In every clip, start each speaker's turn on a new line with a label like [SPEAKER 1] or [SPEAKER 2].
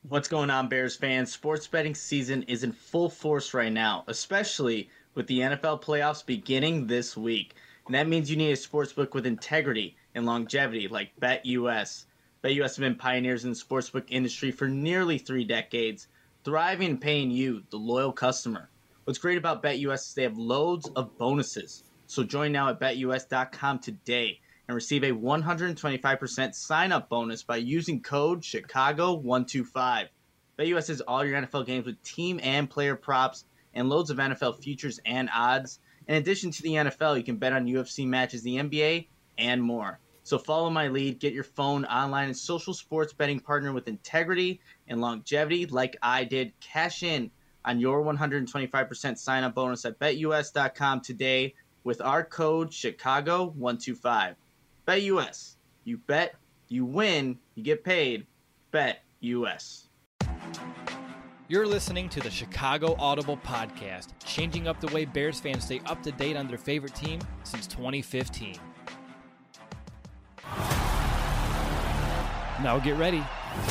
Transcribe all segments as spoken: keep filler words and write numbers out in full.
[SPEAKER 1] What's going on, Bears fans? Sports betting season is in full force right now, especially with the N F L playoffs beginning this week. And that means you need a sportsbook with integrity and longevity like BetUS. BetUS has been pioneers in the sportsbook industry for nearly three decades, thriving and paying you, the loyal customer. What's great about BetUS is they have loads of bonuses. So join now at Bet U S dot com today and receive a one hundred twenty-five percent sign-up bonus by using code Chicago one two five. BetUS has all your N F L games with team and player props and loads of N F L futures and odds. In addition to the N F L, you can bet on U F C matches, the N B A, and more. So follow my lead, get your phone, online, and social sports betting partner with integrity and longevity like I did. Cash in on your one hundred twenty-five percent sign-up bonus at Bet U S dot com today with our code Chicago one two five. BetUS. You bet, you win, you get paid. BetUS.
[SPEAKER 2] You're listening to the Chicago Audible Podcast, changing up the way Bears fans stay up to date on their favorite team since twenty fifteen. Now get ready,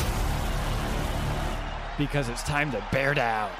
[SPEAKER 2] because it's time to bear down.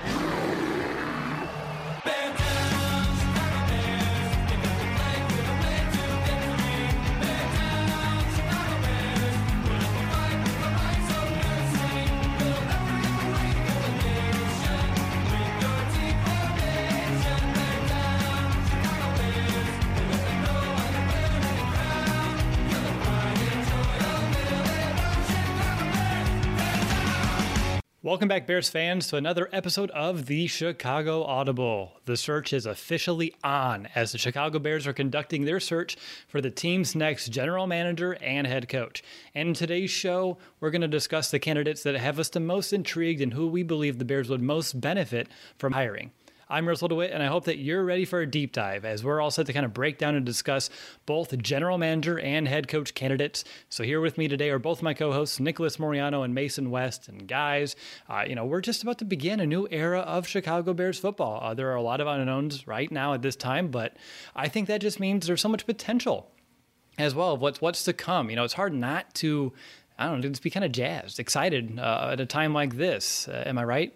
[SPEAKER 2] Welcome back, Bears fans, to another episode of the Chicago Audible. The search is officially on as the Chicago Bears are conducting their search for the team's next general manager and head coach. And in today's show, we're going to discuss the candidates that have us the most intrigued and who we believe the Bears would most benefit from hiring. I'm Russell DeWitt, and I hope that you're ready for a deep dive as we're all set to kind of break down and discuss both general manager and head coach candidates. So here with me today are both my co-hosts, Nicholas Moriano and Mason West. And guys, uh, you know, we're just about to begin a new era of Chicago Bears football. Uh, there are a lot of unknowns right now at this time, but I think that just means there's so much potential as well of what's, what's to come. You know, it's hard not to, I don't know, just be kind of jazzed, excited uh, at a time like this. Uh, am I right?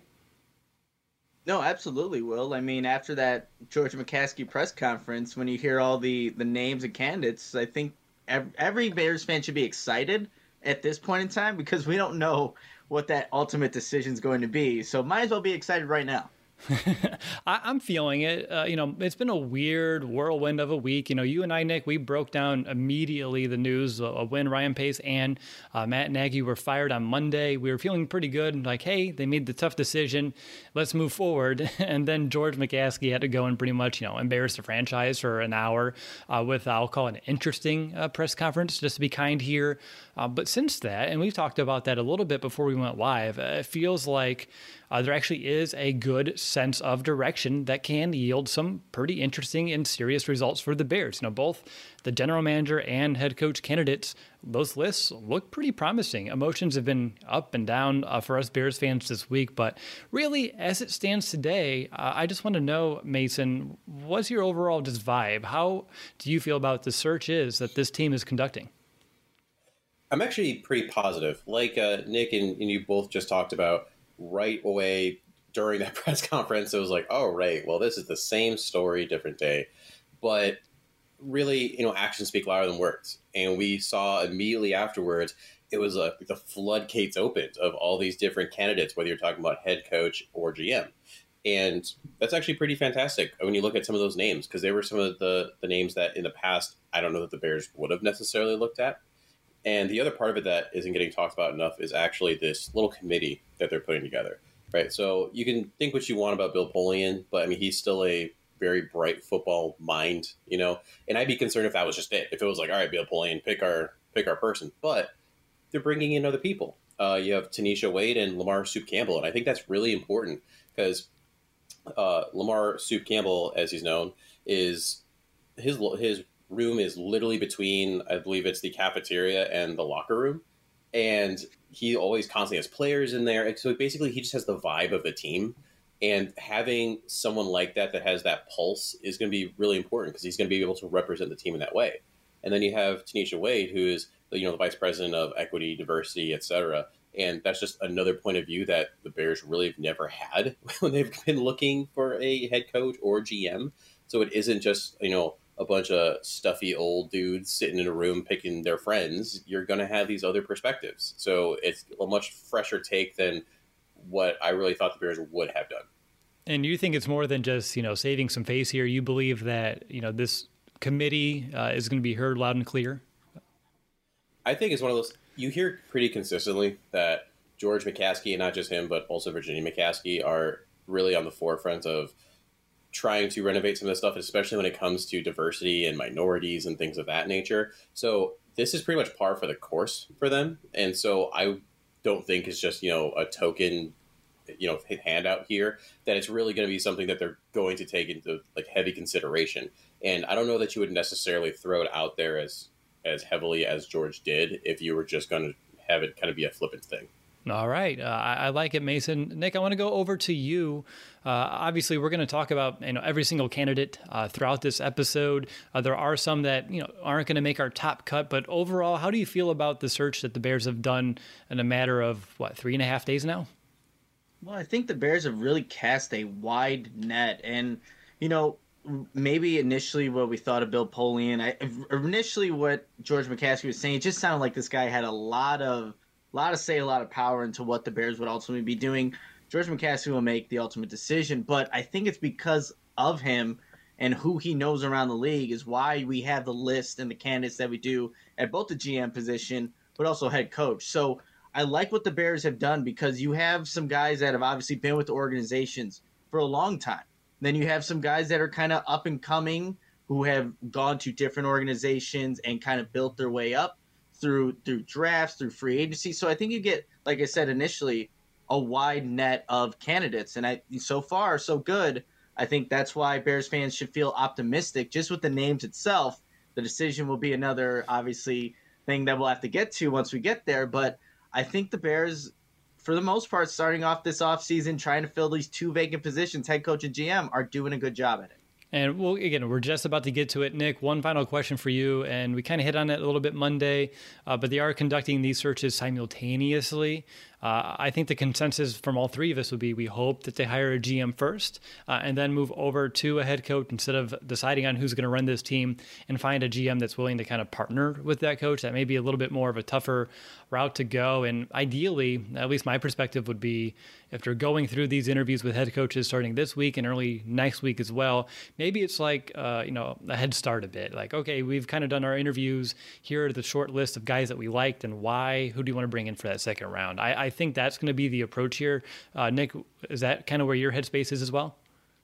[SPEAKER 1] No, absolutely, Will. I mean, after that George McCaskey press conference, when you hear all the, the names and candidates, I think every Bears fan should be excited at this point in time because we don't know what that ultimate decision is going to be. So might as well be excited right now.
[SPEAKER 2] I, I'm feeling it. Uh, you know, it's been a weird whirlwind of a week. You know, you and I, Nick, we broke down immediately the news of when Ryan Pace and uh, Matt Nagy were fired on Monday. We were feeling pretty good. Like, hey, they made the tough decision. Let's move forward. And then George McCaskey had to go and pretty much, you know, embarrass the franchise for an hour uh, with, I'll call it an interesting uh, press conference, just to be kind here. Uh, but since that, and we've talked about that a little bit before we went live, uh, it feels like uh, there actually is a good sense of direction that can yield some pretty interesting and serious results for the Bears. You know, both the general manager and head coach candidates, those lists look pretty promising. Emotions have been up and down uh, for us Bears fans this week, but really, as it stands today, uh, I just want to know, Mason, what's your overall just vibe? How do you feel about the search is that this team is conducting?
[SPEAKER 3] I'm actually pretty positive. Like uh, Nick and, and you both just talked about right away during that press conference, it was like, oh, right, well, this is the same story, different day. But really, you know, actions speak louder than words. And we saw immediately afterwards, it was like the floodgates opened of all these different candidates, whether you're talking about head coach or G M. And that's actually pretty fantastic when you look at some of those names, because they were some of the, the names that in the past, I don't know that the Bears would have necessarily looked at. And the other part of it that isn't getting talked about enough is actually this little committee that they're putting together, right? So you can think what you want about Bill Polian, but I mean, he's still a very bright football mind, you know, and I'd be concerned if that was just it. If it was like, all right, Bill Polian, pick our, pick our person, but they're bringing in other people. Uh, you have Tanisha Wade and Lamar Soup Campbell. And I think that's really important because uh, Lamar Soup Campbell, as he's known, is his, his, room is literally between, I believe it's the cafeteria and the locker room. And he always constantly has players in there. So basically he just has the vibe of the team. And having someone like that that has that pulse is going to be really important because he's going to be able to represent the team in that way. And then you have Tanisha Wade, who is the, you know, the vice president of equity, diversity, et cetera. And that's just another point of view that the Bears really have never had when they've been looking for a head coach or G M. So it isn't just, you know, a bunch of stuffy old dudes sitting in a room picking their friends. You're going to have these other perspectives. So it's a much fresher take than what I really thought the Bears would have done.
[SPEAKER 2] And you think it's more than just, you know, saving some face here. You believe that, you know, this committee uh, is going to be heard loud and clear?
[SPEAKER 3] I think it's one of those, you hear pretty consistently that George McCaskey, and not just him, but also Virginia McCaskey, are really on the forefront of trying to renovate some of this stuff, especially when it comes to diversity and minorities and things of that nature. So this is pretty much par for the course for them. And so I don't think it's just, you know, a token, you know, handout here, that it's really going to be something that they're going to take into like heavy consideration. And I don't know that you would necessarily throw it out there as, as heavily as George did if you were just going to have it kind of be a flippant thing.
[SPEAKER 2] All right. Uh, I, I like it, Mason. Nick, I want to go over to you. Uh, obviously, we're going to talk about, you know, every single candidate uh, throughout this episode. Uh, there are some that, you know, aren't going to make our top cut. But overall, how do you feel about the search that the Bears have done in a matter of, what, three and a half days now?
[SPEAKER 1] Well, I think the Bears have really cast a wide net. And, you know, maybe initially what we thought of Bill Polian, I, initially what George McCaskey was saying, it just sounded like this guy had a lot of, lot of say, a lot of power into what the Bears would ultimately be doing. George McCaskey will make the ultimate decision, but I think it's because of him and who he knows around the league is why we have the list and the candidates that we do at both the G M position, but also head coach. So I like what the Bears have done because you have some guys that have obviously been with the organizations for a long time. Then you have some guys that are kind of up and coming who have gone to different organizations and kind of built their way up through through drafts, through free agency. So I think you get, like I said initially, a wide net of candidates. And I so far, so good. I think that's why Bears fans should feel optimistic. Just with the names itself, the decision will be another, obviously, thing that we'll have to get to once we get there. But I think the Bears, for the most part, starting off this offseason, trying to fill these two vacant positions, head coach and G M, are doing a good job at it.
[SPEAKER 2] And well, again, we're just about to get to it. Nick, one final question for you, and we kind of hit on it a little bit Monday, uh, but they are conducting these searches simultaneously. Uh, I think the consensus from all three of us would be we hope that they hire a G M first uh, and then move over to a head coach instead of deciding on who's going to run this team and find a G M that's willing to kind of partner with that coach. That may be a little bit more of a tougher route to go. And ideally, at least my perspective would be if they're going through these interviews with head coaches starting this week and early next week as well, maybe it's like, uh, you know, a head start a bit. Like, okay, we've kind of done our interviews. Here are the short list of guys that we liked and why. Who do you want to bring in for that second round? I, I think that's going to be the approach here. Uh, Nick, is that kind of where your headspace is as well?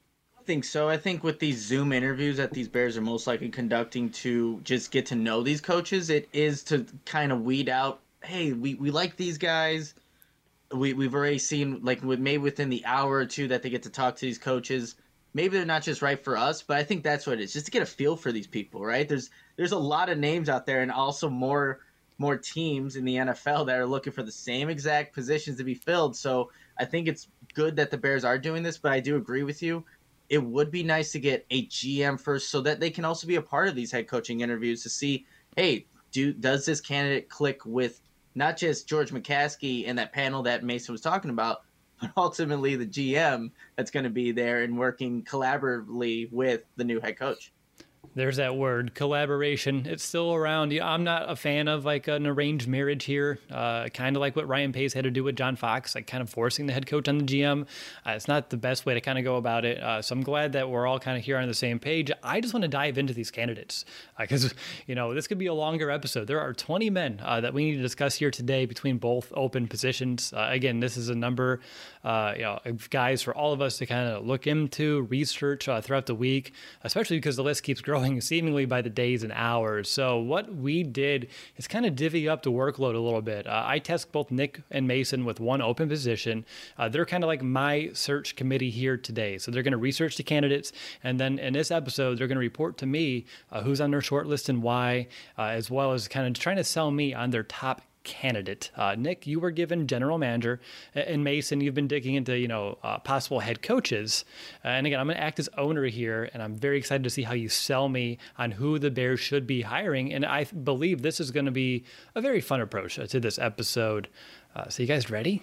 [SPEAKER 1] I think so. I think with these Zoom interviews that these Bears are most likely conducting to just get to know these coaches, it is to kind of weed out, hey, we, we like these guys. We, we've already seen, like, with maybe within the hour or two that they get to talk to these coaches, maybe they're not just right for us, but I think that's what it is, just to get a feel for these people, right? There's there's a lot of names out there and also more more teams in the N F L that are looking for the same exact positions to be filled. So I think it's good that the Bears are doing this, but I do agree with you. It would be nice to get a G M first so that they can also be a part of these head coaching interviews to see, hey, do does this candidate click with not just George McCaskey and that panel that Mason was talking about, but ultimately the G M that's going to be there and working collaboratively with the new head coach.
[SPEAKER 2] There's that word, collaboration. It's still around. I'm not a fan of like an arranged marriage here, uh, kind of like what Ryan Pace had to do with John Fox, like kind of forcing the head coach on the G M. Uh, it's not the best way to kind of go about it. Uh, so I'm glad that we're all kind of here on the same page. I just want to dive into these candidates because, uh, you know, this could be a longer episode. There are twenty men uh, that we need to discuss here today between both open positions. Uh, again, this is a number, uh, you know, of guys for all of us to kind of look into, research uh, throughout the week, especially because the list keeps growing seemingly by the days and hours. So what we did is kind of divvy up the workload a little bit. Uh, I tasked both Nick and Mason with one open position. Uh, they're kind of like my search committee here today. So they're going to research the candidates. And then in this episode, they're going to report to me uh, who's on their short list and why, uh, as well as kind of trying to sell me on their top candidate. Uh, Nick, you were given general manager, and Mason, you've been digging into, you know, uh, possible head coaches. Uh, and again, I'm going to act as owner here, and I'm very excited to see how you sell me on who the Bears should be hiring. And I believe this is going to be a very fun approach to this episode. Uh, so you guys ready?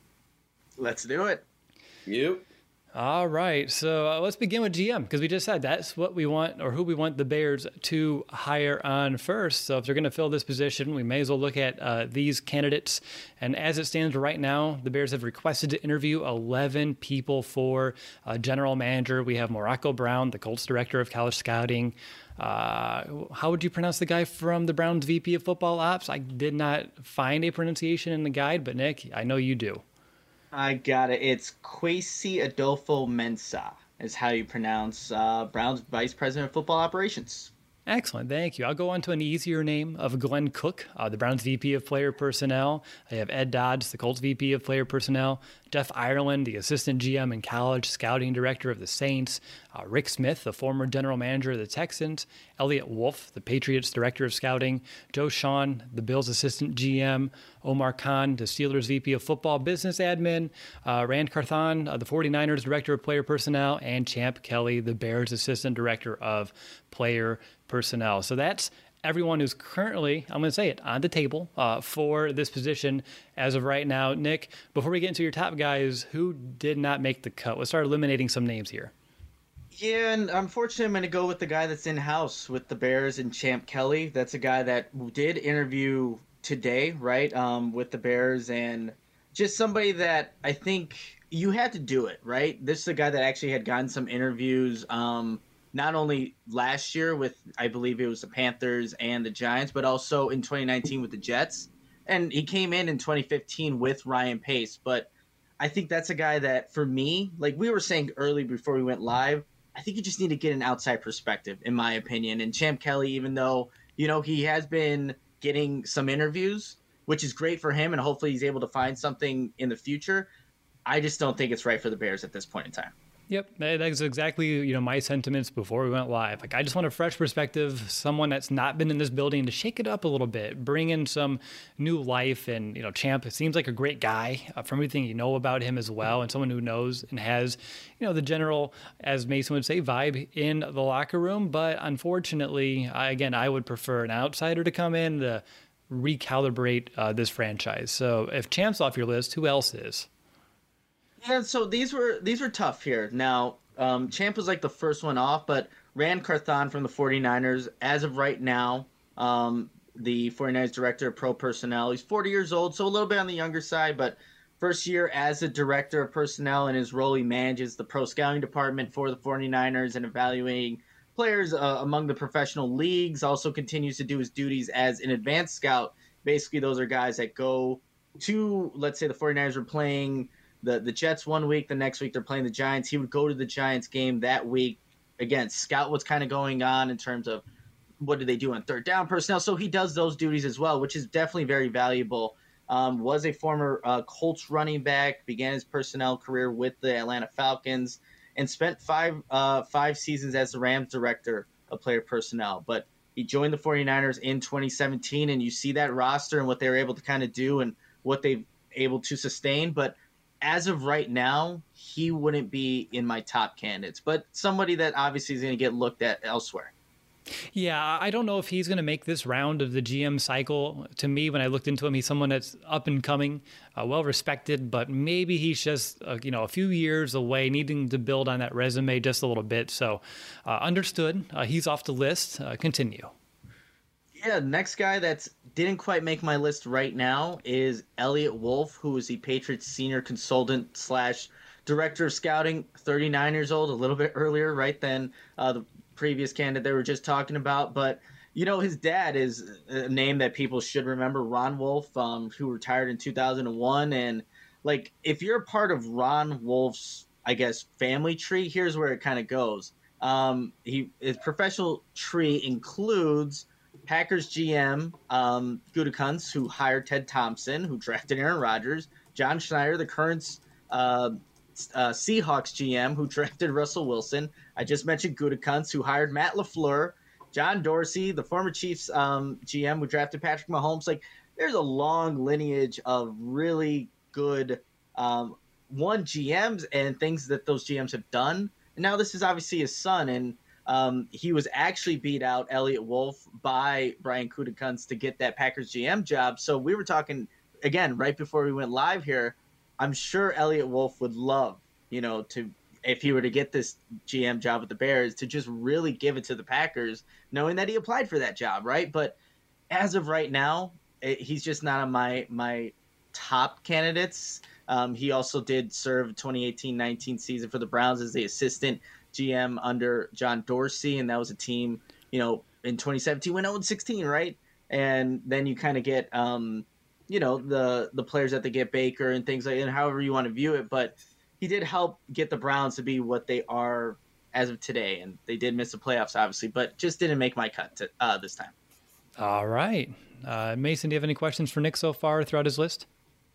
[SPEAKER 1] Let's do it.
[SPEAKER 3] You.
[SPEAKER 2] All right, so uh, let's begin with G M, because we just said that's what we want, or who we want the Bears to hire on first. So if they're going to fill this position, we may as well look at uh, these candidates. And as it stands right now, the Bears have requested to interview eleven people for uh, general manager. We have Morocco Brown, the Colts director of college scouting. Uh, how would you pronounce the guy from the Browns V P of football ops? I did not find a pronunciation in the guide, but Nick, I know you do.
[SPEAKER 1] I got it. It's Kwesi Adolfo Mensah is how you pronounce uh, Brown's Vice President of Football Operations.
[SPEAKER 2] Excellent. Thank you. I'll go on to an easier name of Glenn Cook, uh, the Browns V P of Player Personnel. I have Ed Dodds, the Colts V P of Player Personnel. Jeff Ireland, the Assistant G M and College Scouting Director of the Saints. Uh, Rick Smith, the former General Manager of the Texans. Elliot Wolf, the Patriots Director of Scouting. Joe Shawn, the Bills Assistant G M. Omar Khan, the Steelers V P of Football Business Admin. Uh, Rand Carthon, uh, the 49ers Director of Player Personnel. And Champ Kelly, the Bears Assistant Director of Player Personnel. So that's everyone who's currently, I'm going to say it, on the table uh, for this position as of right now. Nick, before we get into your top guys, who did not make the cut? Let's start eliminating some names here.
[SPEAKER 1] Yeah, and unfortunately, I'm going to go with the guy that's in-house with the Bears and Champ Kelly. That's a guy that did interview today, right, um, with the Bears, and just somebody that I think you had to do it, right? This is a guy that actually had gotten some interviews um, not only last year with, I believe it was the Panthers and the Giants, but also in twenty nineteen with the Jets. And he came in in twenty fifteen with Ryan Pace. But I think that's a guy that, for me, like we were saying early before we went live, I think you just need to get an outside perspective, in my opinion. And Champ Kelly, even though, you know, he has been getting some interviews, which is great for him, and hopefully he's able to find something in the future, I just don't think it's right for the Bears at this point in time.
[SPEAKER 2] Yep, that's exactly, you know, my sentiments before we went live. Like, I just want a fresh perspective, someone that's not been in this building to shake it up a little bit, bring in some new life. And, you know, Champ seems like a great guy uh, from everything you know about him as well, and someone who knows and has, you know, the general, as Mason would say, vibe in the locker room. But unfortunately, I, again, I would prefer an outsider to come in to recalibrate uh, this franchise. So if Champ's off your list, who else is?
[SPEAKER 1] Yeah, so these were these were tough here. Now, um, Champ was like the first one off, but Rand Carthon from the 49ers, as of right now, um, the 49ers Director of Pro Personnel. He's forty years old, so a little bit on the younger side, but first year as a Director of Personnel. In his role, he manages the Pro Scouting Department for the 49ers and evaluating players uh, among the professional leagues. Also continues to do his duties as an advanced scout. Basically, those are guys that go to, let's say the 49ers are playing The the Jets one week, the next week they're playing the Giants. He would go to the Giants game that week. Again, scout what's kind of going on in terms of what do they do on third down personnel. So he does those duties as well, which is definitely very valuable. Um, was a former uh, Colts running back, began his personnel career with the Atlanta Falcons, and spent five uh, five seasons as the Rams director of player personnel. But he joined the 49ers in twenty seventeen, and you see that roster and what they were able to kind of do and what they've able to sustain. But as of right now, he wouldn't be in my top candidates, but somebody that obviously is going to get looked at elsewhere.
[SPEAKER 2] Yeah, I don't know if he's going to make this round of the G M cycle. To me, when I looked into him, he's someone that's up and coming, uh, well respected, but maybe he's just uh, you know a few years away, needing to build on that resume just a little bit. So, uh, understood. Uh, he's off the list. Uh, continue.
[SPEAKER 1] Yeah, next guy that didn't quite make my list right now is Elliot Wolf, who is the Patriots senior consultant slash director of scouting, thirty-nine years old, a little bit earlier, right, than uh, the previous candidate they were just talking about. But, you know, his dad is a name that people should remember, Ron Wolf, um, who retired in two thousand one. And, like, if you're a part of Ron Wolf's, I guess, family tree, here's where it kind of goes. Um, he his professional tree includes Packers G M um, Gutekunst, who hired Ted Thompson, who drafted Aaron Rodgers. John Schneider, the current uh, uh, Seahawks G M, who drafted Russell Wilson. I just mentioned Gutekunst, who hired Matt LaFleur. John Dorsey, the former Chiefs um, G M, who drafted Patrick Mahomes. Like, there's a long lineage of really good um, one G Ms and things that those G Ms have done. And now this is obviously his son, and um, he was actually beat out Elliott Wolf by Brian Gutekunst to get that Packers G M job. So we were talking again right before we went live here. I'm sure Elliott Wolf would love, you know, to if he were to get this G M job with the Bears, to just really give it to the Packers, knowing that he applied for that job, right? But as of right now, it, he's just not on my my top candidates. Um, he also did serve twenty eighteen nineteen season for the Browns as the assistant G M under John Dorsey, and that was a team, you know, in twenty seventeen went oh and sixteen, right? And then you kind of get, um, you know, the the players that they get, Baker and things like that, and however you want to view it. But he did help get the Browns to be what they are as of today, and they did miss the playoffs, obviously, but just didn't make my cut to, uh, this time.
[SPEAKER 2] All right. Uh, Mason, do you have any questions for Nick so far throughout his list?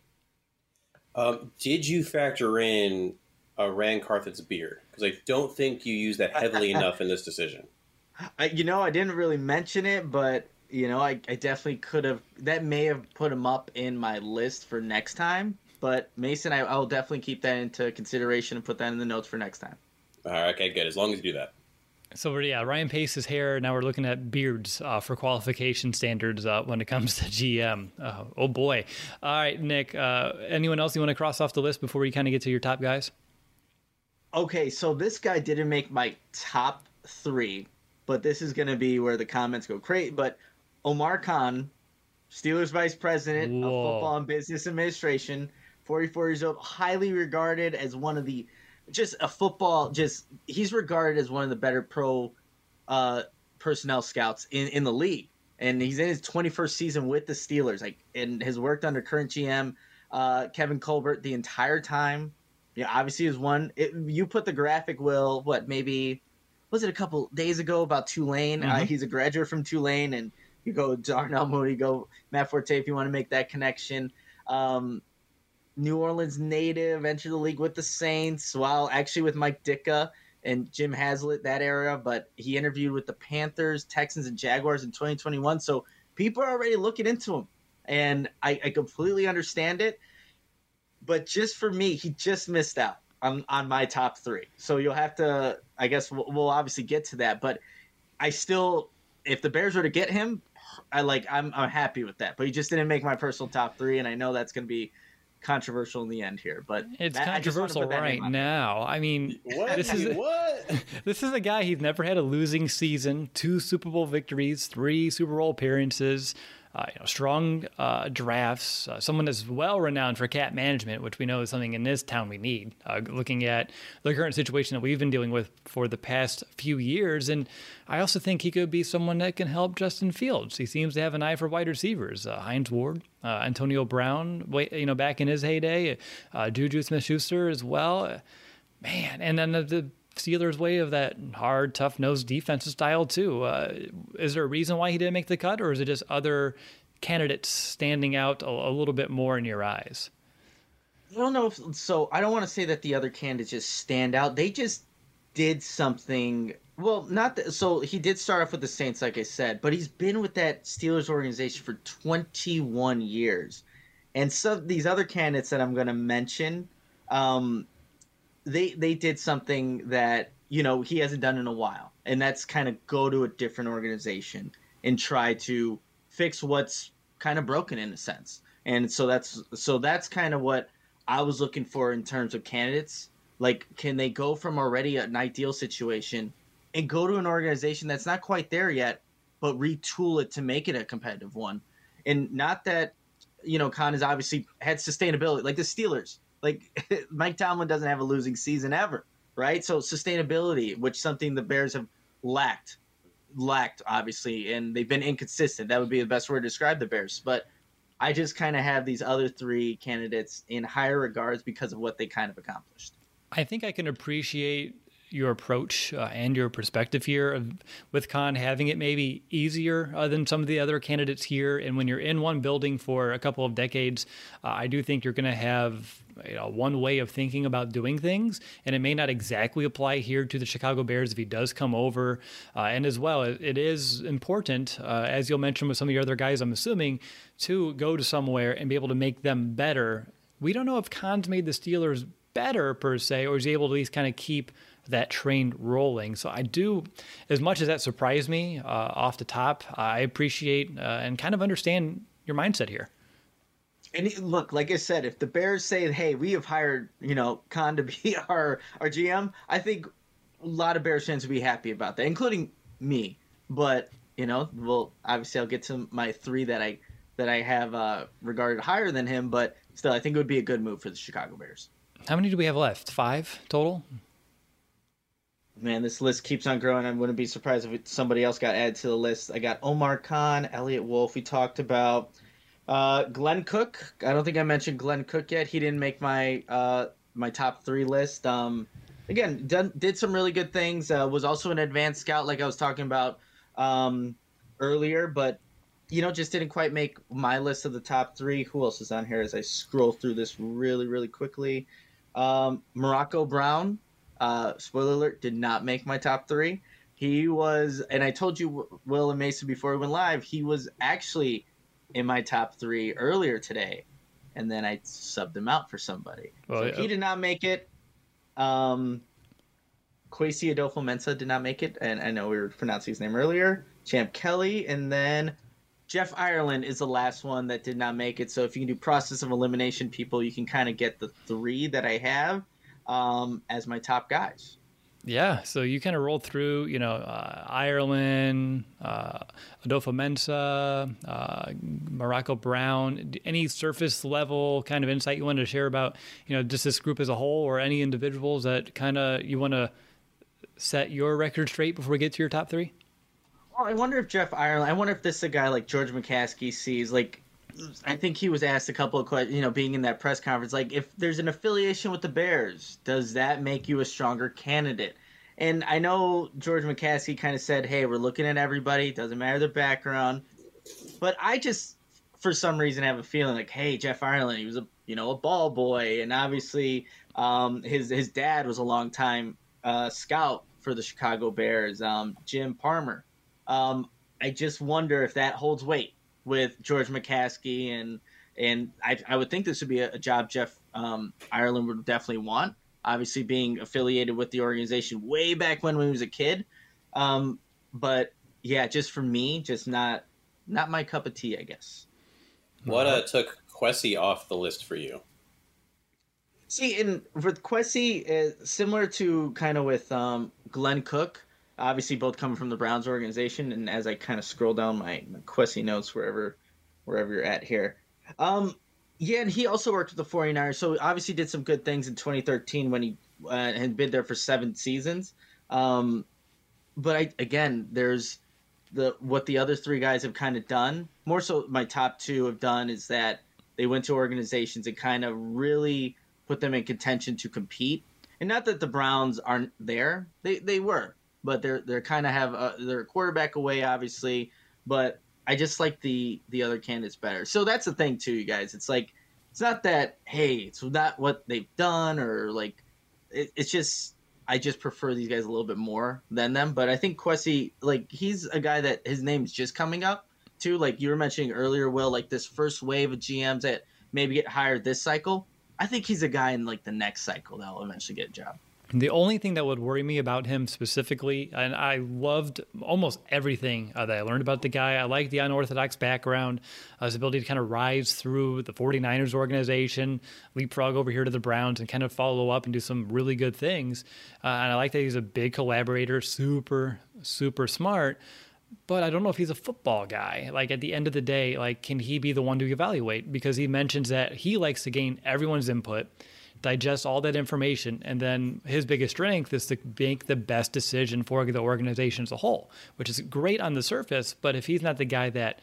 [SPEAKER 3] Um, did you factor in uh, Rand Carthon's beard? Because I don't think you use that heavily enough in this decision.
[SPEAKER 1] I, you know, I didn't really mention it, but, you know, I, I definitely could have. That may have put him up in my list for next time. But Mason, I, I'll definitely keep that into consideration and put that in the notes for next time.
[SPEAKER 3] All right, okay, good. As long as you do that.
[SPEAKER 2] So, yeah, Ryan Pace's hair. Now we're looking at beards uh, for qualification standards uh, when it comes to G M. Uh, oh, boy. All right, Nick, uh, anyone else you want to cross off the list before we kind of get to your top guys?
[SPEAKER 1] Okay, so this guy didn't make my top three, but this is going to be where the comments go crazy. But Omar Khan, Steelers Vice President
[SPEAKER 2] Whoa.
[SPEAKER 1] of Football and Business Administration, forty-four years old, highly regarded as one of the just a football just he's regarded as one of the better pro uh personnel scouts in in the league, and he's in his twenty-first season with the Steelers, like, and has worked under current G M uh Kevin Colbert the entire time. Yeah, obviously is one it, you put the graphic, Will, what maybe was it a couple days ago about Tulane. Mm-hmm. Uh, he's a graduate from Tulane, and you go Darnell Mooney, go Matt Forte if you want to make that connection. um New Orleans native, entered the league with the Saints, while actually with Mike Ditka and Jim Haslett that era, but he interviewed with the Panthers, Texans, and Jaguars in twenty twenty-one. So people are already looking into him, and I, I completely understand it. But just for me, he just missed out on, on my top three. So you'll have to, I guess we'll, we'll obviously get to that. But I still, if the Bears were to get him, I like I'm I'm happy with that. But he just didn't make my personal top three, and I know that's going to be controversial in the end here, but
[SPEAKER 2] it's
[SPEAKER 1] that,
[SPEAKER 2] controversial right now. I mean,
[SPEAKER 3] what?
[SPEAKER 2] this is
[SPEAKER 3] what?
[SPEAKER 2] This is a guy, he's never had a losing season, two Super Bowl victories, three Super Bowl appearances, uh, you know, strong uh, drafts, uh, someone that's well renowned for cap management, which we know is something in this town we need. Uh, looking at the current situation that we've been dealing with for the past few years, and I also think he could be someone that can help Justin Fields. He seems to have an eye for wide receivers. Uh, Hines Ward, uh, Antonio Brown, you know, back in his heyday, uh, Juju Smith-Schuster as well. Uh, man, and then the, the Steelers' way of that hard, tough-nosed defensive style too. Uh, is there a reason why he didn't make the cut, or is it just other candidates standing out a, a little bit more in your eyes?
[SPEAKER 1] I don't know if so. I don't want to say that the other candidates just stand out. They just did something. Well, not that, so he did start off with the Saints, like I said, but he's been with that Steelers organization for twenty-one years. And some these other candidates that I'm going to mention, um, they they did something that, you know, he hasn't done in a while, and that's kind of go to a different organization and try to fix what's kind of broken in a sense. And so that's so that's kind of what I was looking for in terms of candidates. Like, can they go from already an ideal situation and go to an organization that's not quite there yet, but retool it to make it a competitive one? And not that, you know, Khan has obviously had sustainability, like the Steelers. Like, Mike Tomlin doesn't have a losing season ever, right? So sustainability, which something the Bears have lacked, lacked, obviously, and they've been inconsistent. That would be the best word to describe the Bears. But I just kind of have these other three candidates in higher regards because of what they kind of accomplished.
[SPEAKER 2] I think I can appreciate your approach uh, and your perspective here of, with Khan having it maybe easier uh, than some of the other candidates here. And when you're in one building for a couple of decades, uh, I do think you're going to have you know, one way of thinking about doing things, and it may not exactly apply here to the Chicago Bears if he does come over. Uh, and as well, it, it is important, uh, as you'll mention with some of your other guys, I'm assuming, to go to somewhere and be able to make them better. We don't know if Khan's made the Steelers better per se, or is he able to at least kind of keep that train rolling. So I do, as much as that surprised me uh, off the top, I appreciate uh, and kind of understand your mindset here.
[SPEAKER 1] And look, like I said, if the Bears say, hey, we have hired, you know, Khan to be our, our G M, I think a lot of Bears fans would be happy about that, including me. But, you know, well, obviously I'll get to my three that I that I have uh, regarded higher than him, but still, I think it would be a good move for the Chicago Bears.
[SPEAKER 2] How many do we have left? Five total?
[SPEAKER 1] Man, this list keeps on growing. I wouldn't be surprised if it, somebody else got added to the list. I got Omar Khan, Elliott Wolf, we talked about. Uh, Glenn Cook. I don't think I mentioned Glenn Cook yet. He didn't make my uh, my top three list. Um, again, done, did some really good things. Uh, was also an advanced scout, like I was talking about um, earlier, but you know, just didn't quite make my list of the top three. Who else is on here as I scroll through this really, really quickly? Um, Morocco Brown. Uh, spoiler alert, did not make my top three. He was, and I told you, Will and Mason, before we went live, he was actually in my top three earlier today, and then I subbed him out for somebody.
[SPEAKER 2] Well,
[SPEAKER 1] so
[SPEAKER 2] yeah.
[SPEAKER 1] He did not make it. Um, Kwesi Adolfo-Mensah did not make it, and I know we were pronouncing his name earlier. Champ Kelly, and then Jeff Ireland is the last one that did not make it. So if you can do process of elimination, people, you can kind of get the three that I have um, as my top guys.
[SPEAKER 2] Yeah, so you kind of rolled through, you know, uh, Ireland, uh, Adolfo-Mensah, uh, Morocco Brown. Any surface level kind of insight you wanted to share about, you know, just this group as a whole, or any individuals that kind of you want to set your record straight before we get to your top three?
[SPEAKER 1] Well, I wonder if Jeff Ireland, I wonder if this is a guy like George McCaskey sees, like, I think he was asked a couple of questions, you know, being in that press conference, like, if there's an affiliation with the Bears, does that make you a stronger candidate? And I know George McCaskey kind of said, hey, we're looking at everybody, doesn't matter their background. But I just, for some reason, have a feeling like, hey, Jeff Ireland, he was a, you know, a ball boy. And obviously um, his, his dad was a longtime uh, scout for the Chicago Bears, um, Jim Palmer. Um, I just wonder if that holds weight with George McCaskey, and and I, I would think this would be a, a job Jeff um, Ireland would definitely want. Obviously, being affiliated with the organization way back when, when he was a kid, um, but yeah, just for me, just not not my cup of tea, I guess.
[SPEAKER 3] What uh, took Kwesi off the list for you?
[SPEAKER 1] See, in with Kwesi, uh, similar to kind of with um, Glenn Cook. Obviously, both coming from the Browns organization, and as I kind of scroll down my, my Kwesi notes, wherever wherever you're at here. Um, yeah, and he also worked with the 49ers, so obviously did some good things in twenty thirteen when he uh, had been there for seven seasons. Um, but, I, again, there's the what the other three guys have kind of done. More so my top two have done is that they went to organizations and kind of really put them in contention to compete. And not that the Browns aren't there. They, they were. But they're they're kind of have a, they're a quarterback away, obviously. But I just like the the other candidates better. So that's the thing too, you guys. It's like it's not that hey, it's not what they've done or like it, it's just I just prefer these guys a little bit more than them. But I think Kwesi, like he's a guy that his name's just coming up too. Like you were mentioning earlier, Will, like this first wave of G Ms that maybe get hired this cycle. I think he's a guy in like the next cycle that will eventually get a job.
[SPEAKER 2] The only thing that would worry me about him specifically, and I loved almost everything uh, that I learned about the guy. I like the unorthodox background, uh, his ability to kind of rise through the 49ers organization, leapfrog over here to the Browns, and kind of follow up and do some really good things. Uh, and I like that he's a big collaborator, super, super smart. But I don't know if he's a football guy. Like at the end of the day, like can he be the one to evaluate? Because he mentions that he likes to gain everyone's input, digest all that information, and then his biggest strength is to make the best decision for the organization as a whole, which is great on the surface. But if he's not the guy that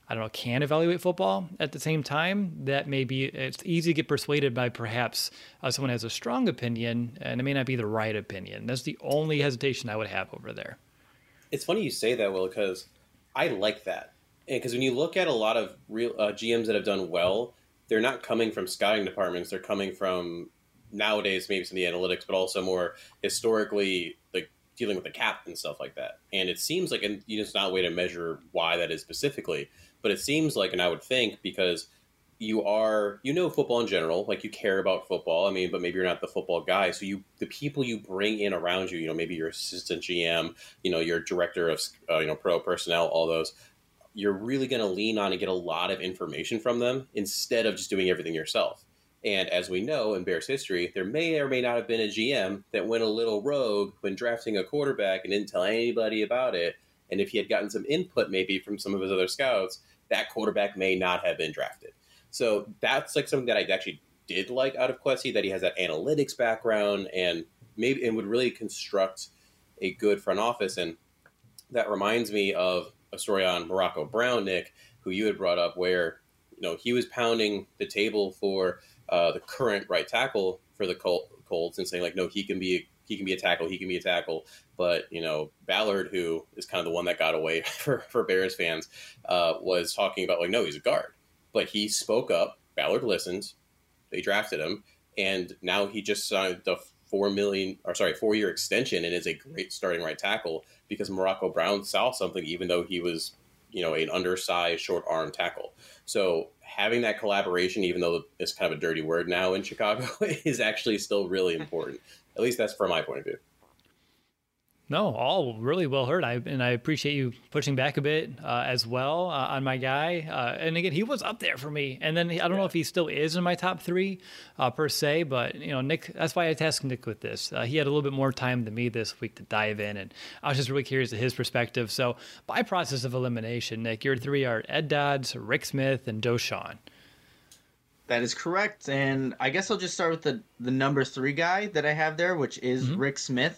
[SPEAKER 2] I don't know, can evaluate football at the same time, that maybe it's easy to get persuaded by perhaps uh, someone has a strong opinion and it may not be the right opinion. That's the only hesitation I would have over there.
[SPEAKER 3] It's funny you say that, Will, because I like that. Because when you look at a lot of real uh, G Ms that have done well, they're not coming from scouting departments. They're coming from nowadays maybe some of the analytics, but also more historically like dealing with the cap and stuff like that. And it seems like, and you know, it's not a way to measure why that is specifically, but it seems like, and I would think because you are, you know, football in general, like you care about football. I mean, but maybe you're not the football guy. So you, the people you bring in around you, you know, maybe your assistant G M, you know, your director of, uh, you know, pro personnel, all those, you're really going to lean on and get a lot of information from them instead of just doing everything yourself. And as we know in Bears history, there may or may not have been a G M that went a little rogue when drafting a quarterback and didn't tell anybody about it. And if he had gotten some input maybe from some of his other scouts, that quarterback may not have been drafted. So that's like something that I actually did like out of Kwesi, that he has that analytics background and maybe and would really construct a good front office. And that reminds me of a story on Morocco Brown, Nick, who you had brought up, where you know he was pounding the table for uh, the current right tackle for the Col- Colts and saying like, no, he can be a, he can be a tackle, he can be a tackle. But you know Ballard, who is kind of the one that got away for, for Bears fans, uh, was talking about like, no, he's a guard. But he spoke up. Ballard listened. They drafted him, and now he just signed the four million, or sorry, four year extension, and is a great starting right tackle because Morocco Brown saw something, even though he was, you know, an undersized, short arm tackle. So having that collaboration, even though it's kind of a dirty word now in Chicago, is actually still really important. At least that's from my point of view.
[SPEAKER 2] No, all really well heard. I and I appreciate you pushing back a bit uh, as well uh, on my guy. Uh, and again, he was up there for me. And then I don't yeah. know if he still is in my top three uh, per se, but you know, Nick. That's why I tasked Nick with this. Uh, he had a little bit more time than me this week to dive in, and I was just really curious to his perspective. So, by process of elimination, Nick, your three are Ed Dodds, Rick Smith, and Doshawn.
[SPEAKER 1] That is correct. And I guess I'll just start with the the number three guy that I have there, which is mm-hmm. Rick Smith.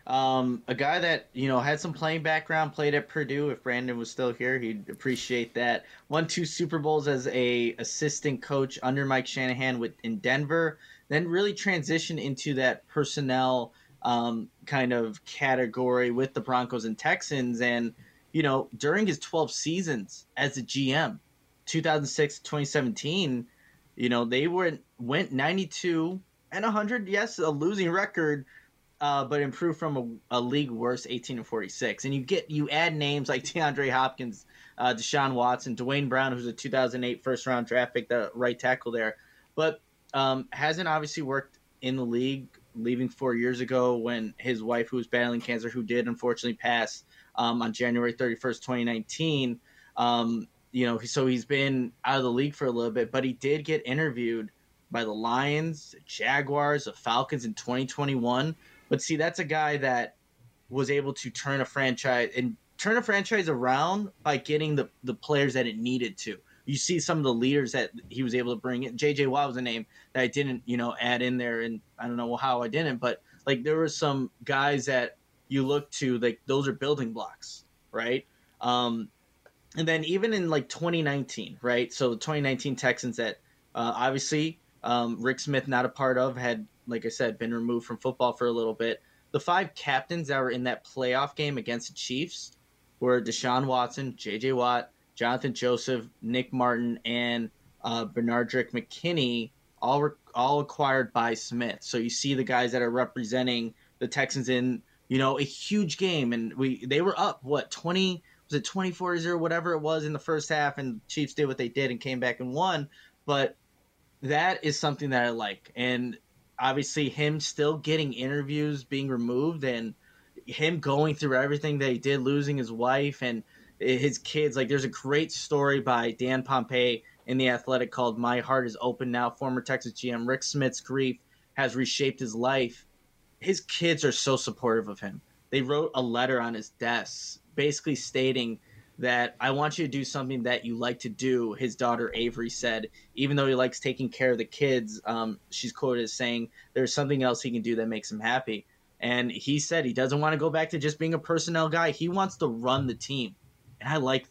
[SPEAKER 1] Um, a guy that, you know, had some playing background, played at Purdue. If Brandon was still here, he'd appreciate that. Won two Super Bowls as a assistant coach under Mike Shanahan with in Denver, then really transitioned into that personnel um, kind of category with the Broncos and Texans. And, you know, during his twelve seasons as a G M, two thousand six to twenty seventeen, you know, they were went ninety-two and one hundred, yes, a losing record, Uh, but improved from a, a league worst eighteen and forty-six. And you get you add names like DeAndre Hopkins, uh, Deshaun Watson, Dwayne Brown, who's a two thousand eight first round draft pick, the right tackle there, but um, hasn't obviously worked in the league, leaving four years ago when his wife, who was battling cancer, who did unfortunately pass um, on January thirty-first, twenty nineteen. Um, you know, so he's been out of the league for a little bit, but he did get interviewed by the Lions, the Jaguars, the Falcons in twenty twenty-one. But see, that's a guy that was able to turn a franchise and turn a franchise around by getting the, the players that it needed to. You see some of the leaders that he was able to bring in. J J Watt was a name that I didn't, you know, add in there, and I don't know how I didn't, but like there were some guys that you look to, like those are building blocks, right? Um, and then even in like twenty nineteen, right? So the twenty nineteen Texans that uh, obviously um, Rick Smith not a part of, had, like I said, been removed from football for a little bit. The five captains that were in that playoff game against the Chiefs were Deshaun Watson, J J Watt, Jonathan Joseph, Nick Martin, and uh, Bernardrick McKinney, all re- all acquired by Smith. So you see the guys that are representing the Texans in, you know, a huge game, and we they were up what twenty was it twenty-four to zero, whatever it was in the first half, and Chiefs did what they did and came back and won. But that is something that I like, and obviously him still getting interviews, being removed, and him going through everything that he did, losing his wife and his kids. Like, there's a great story by Dan Pompei in The Athletic called My Heart is Open Now. Former Texas G M Rick Smith's grief has reshaped his life. His kids are so supportive of him. They wrote a letter on his desk basically stating that I want you to do something that you like to do. His daughter Avery said, even though he likes taking care of the kids, um, she's quoted as saying there's something else he can do that makes him happy. And he said he doesn't want to go back to just being a personnel guy. He wants to run the team. And I like that.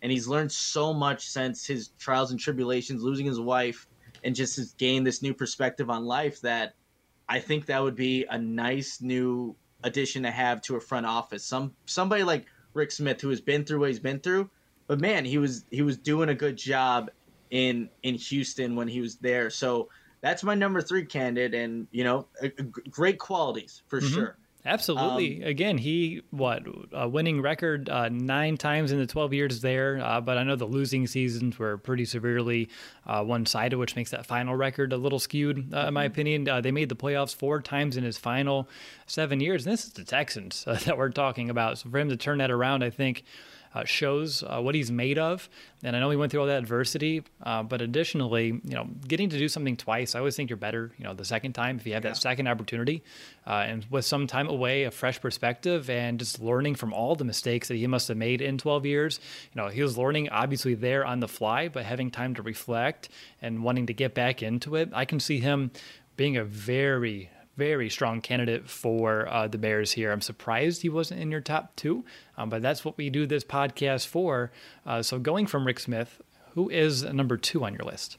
[SPEAKER 1] and he's learned so much since his trials and tribulations, losing his wife, and just has gained this new perspective on life that I think that would be a nice new addition to have to a front office. Some somebody like Rick Smith, who has been through what he's been through, but man, he was he was doing a good job in in Houston when he was there. So that's my number three candidate, and you know, a, a great qualities for mm-hmm. sure.
[SPEAKER 2] Absolutely. Um, Again, he, what, a winning record uh, nine times in the twelve years there, uh, but I know the losing seasons were pretty severely uh, one-sided, which makes that final record a little skewed, uh, in my opinion. Uh, they made the playoffs four times in his final seven years, and this is the Texans uh, that we're talking about. So for him to turn that around, I think, Uh, shows uh, what he's made of. And I know he went through all that adversity, uh, but additionally, you know, getting to do something twice, I always think you're better, you know, the second time if you have yeah. that second opportunity, uh, and with some time away, a fresh perspective, and just learning from all the mistakes that he must have made in twelve years. You know, he was learning obviously there on the fly, but having time to reflect and wanting to get back into it. I can see him being a very very strong candidate for uh, the Bears here. I'm surprised he wasn't in your top two, um, but that's what we do this podcast for. Uh, so going from Rick Smith, who is number two on your list?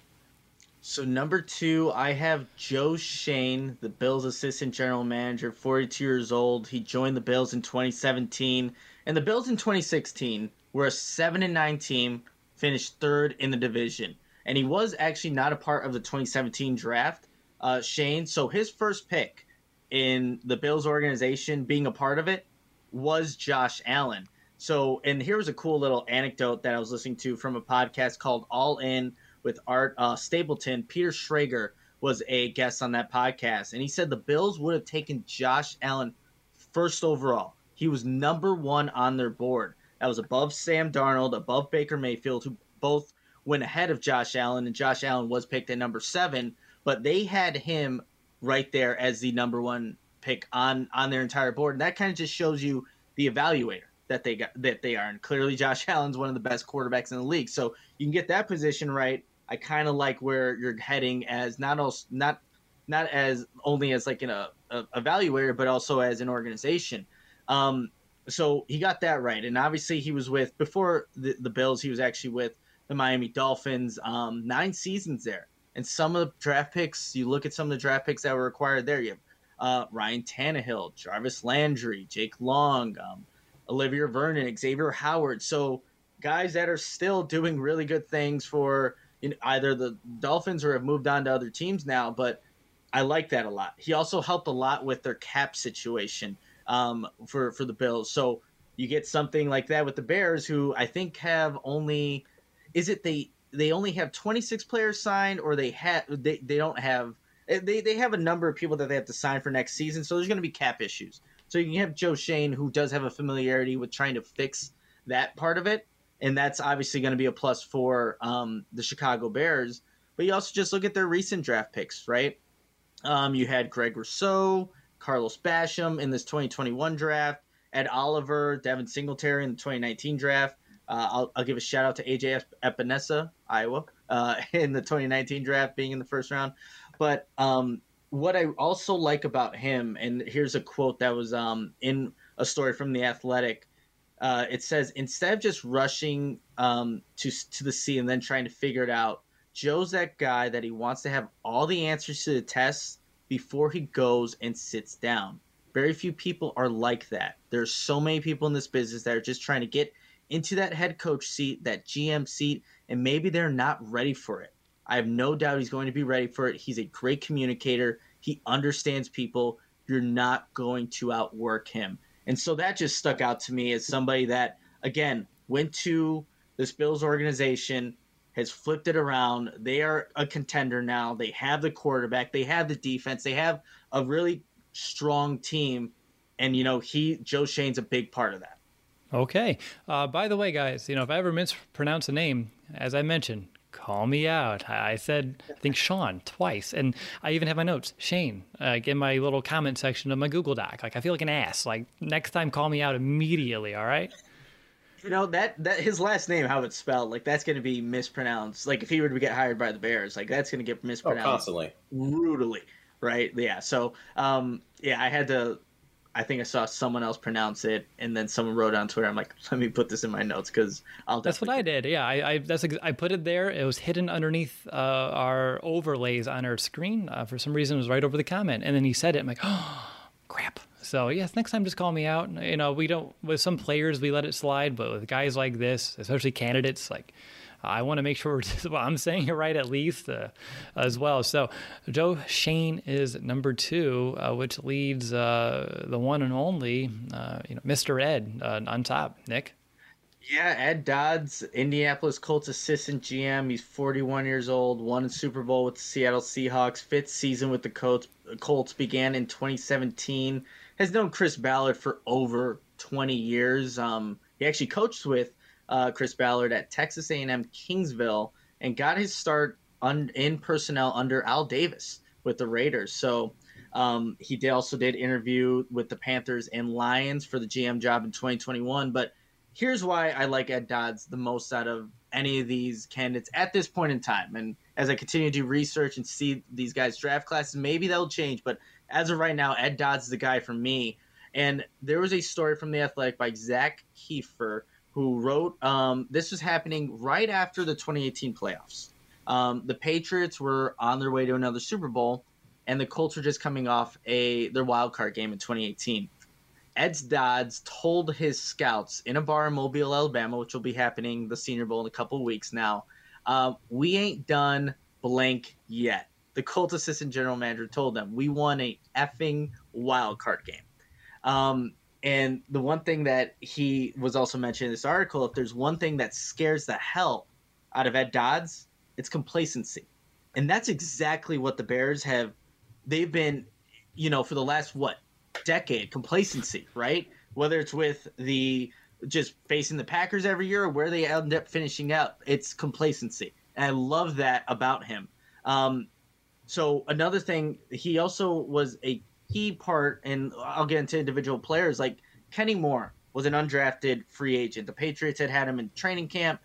[SPEAKER 1] So number two, I have Joe Schoen, the Bills' assistant general manager, forty-two years old. He joined the Bills in twenty seventeen, and the Bills in twenty sixteen were a seven and nine team, finished third in the division. And he was actually not a part of the twenty seventeen draft. Uh, Shane, so his first pick in the Bills organization, being a part of it, was Josh Allen. So, and here was a cool little anecdote that I was listening to from a podcast called All In with Art uh, Stapleton. Peter Schrager was a guest on that podcast, and he said the Bills would have taken Josh Allen first overall. He was number one on their board. That was above Sam Darnold, above Baker Mayfield, who both went ahead of Josh Allen, and Josh Allen was picked at number seven. But they had him right there as the number one pick on, on their entire board. And that kind of just shows you the evaluator that they got that they are. And clearly Josh Allen's one of the best quarterbacks in the league. So you can get that position right. I kind of like where you're heading as not also, not not as only as like an a, a evaluator, but also as an organization. Um, so he got that right. And obviously he was with, before the, the Bills, he was actually with the Miami Dolphins, um, nine seasons there. And some of the draft picks, you look at some of the draft picks that were acquired there. You have uh, Ryan Tannehill, Jarvis Landry, Jake Long, um, Olivia Vernon, Xavier Howard. So guys that are still doing really good things for you know, either the Dolphins or have moved on to other teams now. But I like that a lot. He also helped a lot with their cap situation um, for, for the Bills. So you get something like that with the Bears, who I think have only – is it they – they only have twenty-six players signed, or they have they, they don't have they, they have a number of people that they have to sign for next season. So there's going to be cap issues. So you can have Joe Schoen, who does have a familiarity with trying to fix that part of it. And that's obviously going to be a plus for um, the Chicago Bears. But you also just look at their recent draft picks, right? Um, you had Greg Rousseau, Carlos Basham in this twenty twenty-one draft, Ed Oliver, Devin Singletary in the twenty nineteen draft. Uh, I'll, I'll give a shout out to A J Epinesa, Iowa, uh, in the twenty nineteen draft, being in the first round. But um, what I also like about him, and here's a quote that was um, in a story from The Athletic. Uh, it says, instead of just rushing um, to to the sea and then trying to figure it out, Joe's that guy that he wants to have all the answers to the tests before he goes and sits down. Very few people are like that. There's so many people in this business that are just trying to get into that head coach seat, that G M seat, and maybe they're not ready for it. I have no doubt he's going to be ready for it. He's a great communicator. He understands people. You're not going to outwork him. And so that just stuck out to me as somebody that, again, went to this Bills organization, has flipped it around. They are a contender now. They have the quarterback. They have the defense. They have a really strong team. And, you know, he, Joe Schoen's a big part of that.
[SPEAKER 2] Okay. Uh, by the way, guys, you know, if I ever mispronounce a name, as I mentioned, call me out. I said, I think Sean twice. And I even have my notes, Shane, uh, in my little comment section of my Google Doc. Like, I feel like an ass. Like, next time, call me out immediately, all right?
[SPEAKER 1] You know, that, that his last name, how it's spelled, like, that's going to be mispronounced. Like, if he were to get hired by the Bears, like, that's going to get mispronounced.
[SPEAKER 3] Oh, constantly.
[SPEAKER 1] Brutally, right? Yeah, so, um, yeah, I had to I think I saw someone else pronounce it, and then someone wrote on Twitter. I'm like, let me put this in my notes because I'll.
[SPEAKER 2] That's what I did. Yeah, I, I that's I put it there. It was hidden underneath uh, our overlays on our screen. Uh, for some reason, it was right over the comment, and then he said it. I'm like, oh, crap. So yes, next time just call me out. You know, we don't with some players we let it slide, but with guys like this, especially candidates, like. I want to make sure well, I'm saying it right at least uh, as well. So Joe Schoen is number two, uh, which leads uh, the one and only, uh, you know, Mister Ed uh, on top. Nick?
[SPEAKER 1] Yeah, Ed Dodds, Indianapolis Colts assistant G M. He's forty-one years old, won a Super Bowl with the Seattle Seahawks. Fifth season with the Colts, Colts began in twenty seventeen. Has known Chris Ballard for over twenty years. Um, he actually coached with Uh, Chris Ballard at Texas A and M Kingsville and got his start un- in personnel under Al Davis with the Raiders. So um, he did also did interview with the Panthers and Lions for the G M job in twenty twenty-one. But here's why I like Ed Dodds the most out of any of these candidates at this point in time. And as I continue to do research and see these guys' draft classes, maybe that'll change. But as of right now, Ed Dodds is the guy for me. And there was a story from The Athletic by Zach Kiefer, who wrote, um, this was happening right after the twenty eighteen playoffs. Um, the Patriots were on their way to another Super Bowl, and the Colts were just coming off a their wild card game in twenty eighteen. Ed Dodds told his scouts in a bar in Mobile, Alabama, which will be happening the Senior Bowl in a couple of weeks now, uh, we ain't done blank yet. The Colts assistant general manager told them, we won a effing wild card game. Um, And the one thing that he was also mentioning in this article, if there's one thing that scares the hell out of Ed Dodds, it's complacency. And that's exactly what the Bears have. They've been, you know, for the last, what, decade, complacency, right? Whether it's with the just facing the Packers every year or where they end up finishing out, it's complacency. And I love that about him. Um, so another thing, he also was a key part, and I'll get into individual players, like Kenny Moore was an undrafted free agent. The Patriots had had him in training camp,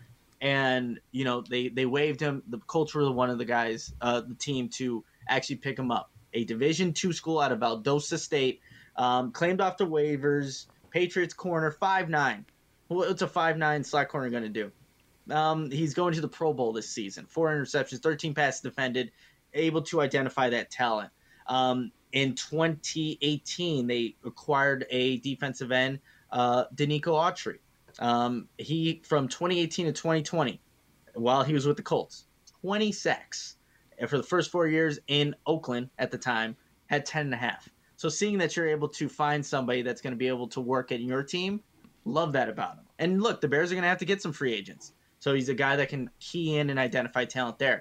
[SPEAKER 1] and you know they they waived him. The Colts were one of the guys, uh, the team to actually pick him up. A Division two school out of Valdosta State, um, claimed off the waivers. Patriots corner five nine. What's a five nine slot corner going to do? Um, he's going to the Pro Bowl this season. Four interceptions, thirteen passes defended, able to identify that talent. Um, In twenty eighteen, they acquired a defensive end, uh, Danico Autry. Um, he, from twenty eighteen to twenty twenty, while he was with the Colts, twenty sacks. And for the first four years in Oakland at the time, had ten and a half. So seeing that you're able to find somebody that's going to be able to work at your team, love that about him. And look, the Bears are going to have to get some free agents. So he's a guy that can key in and identify talent there.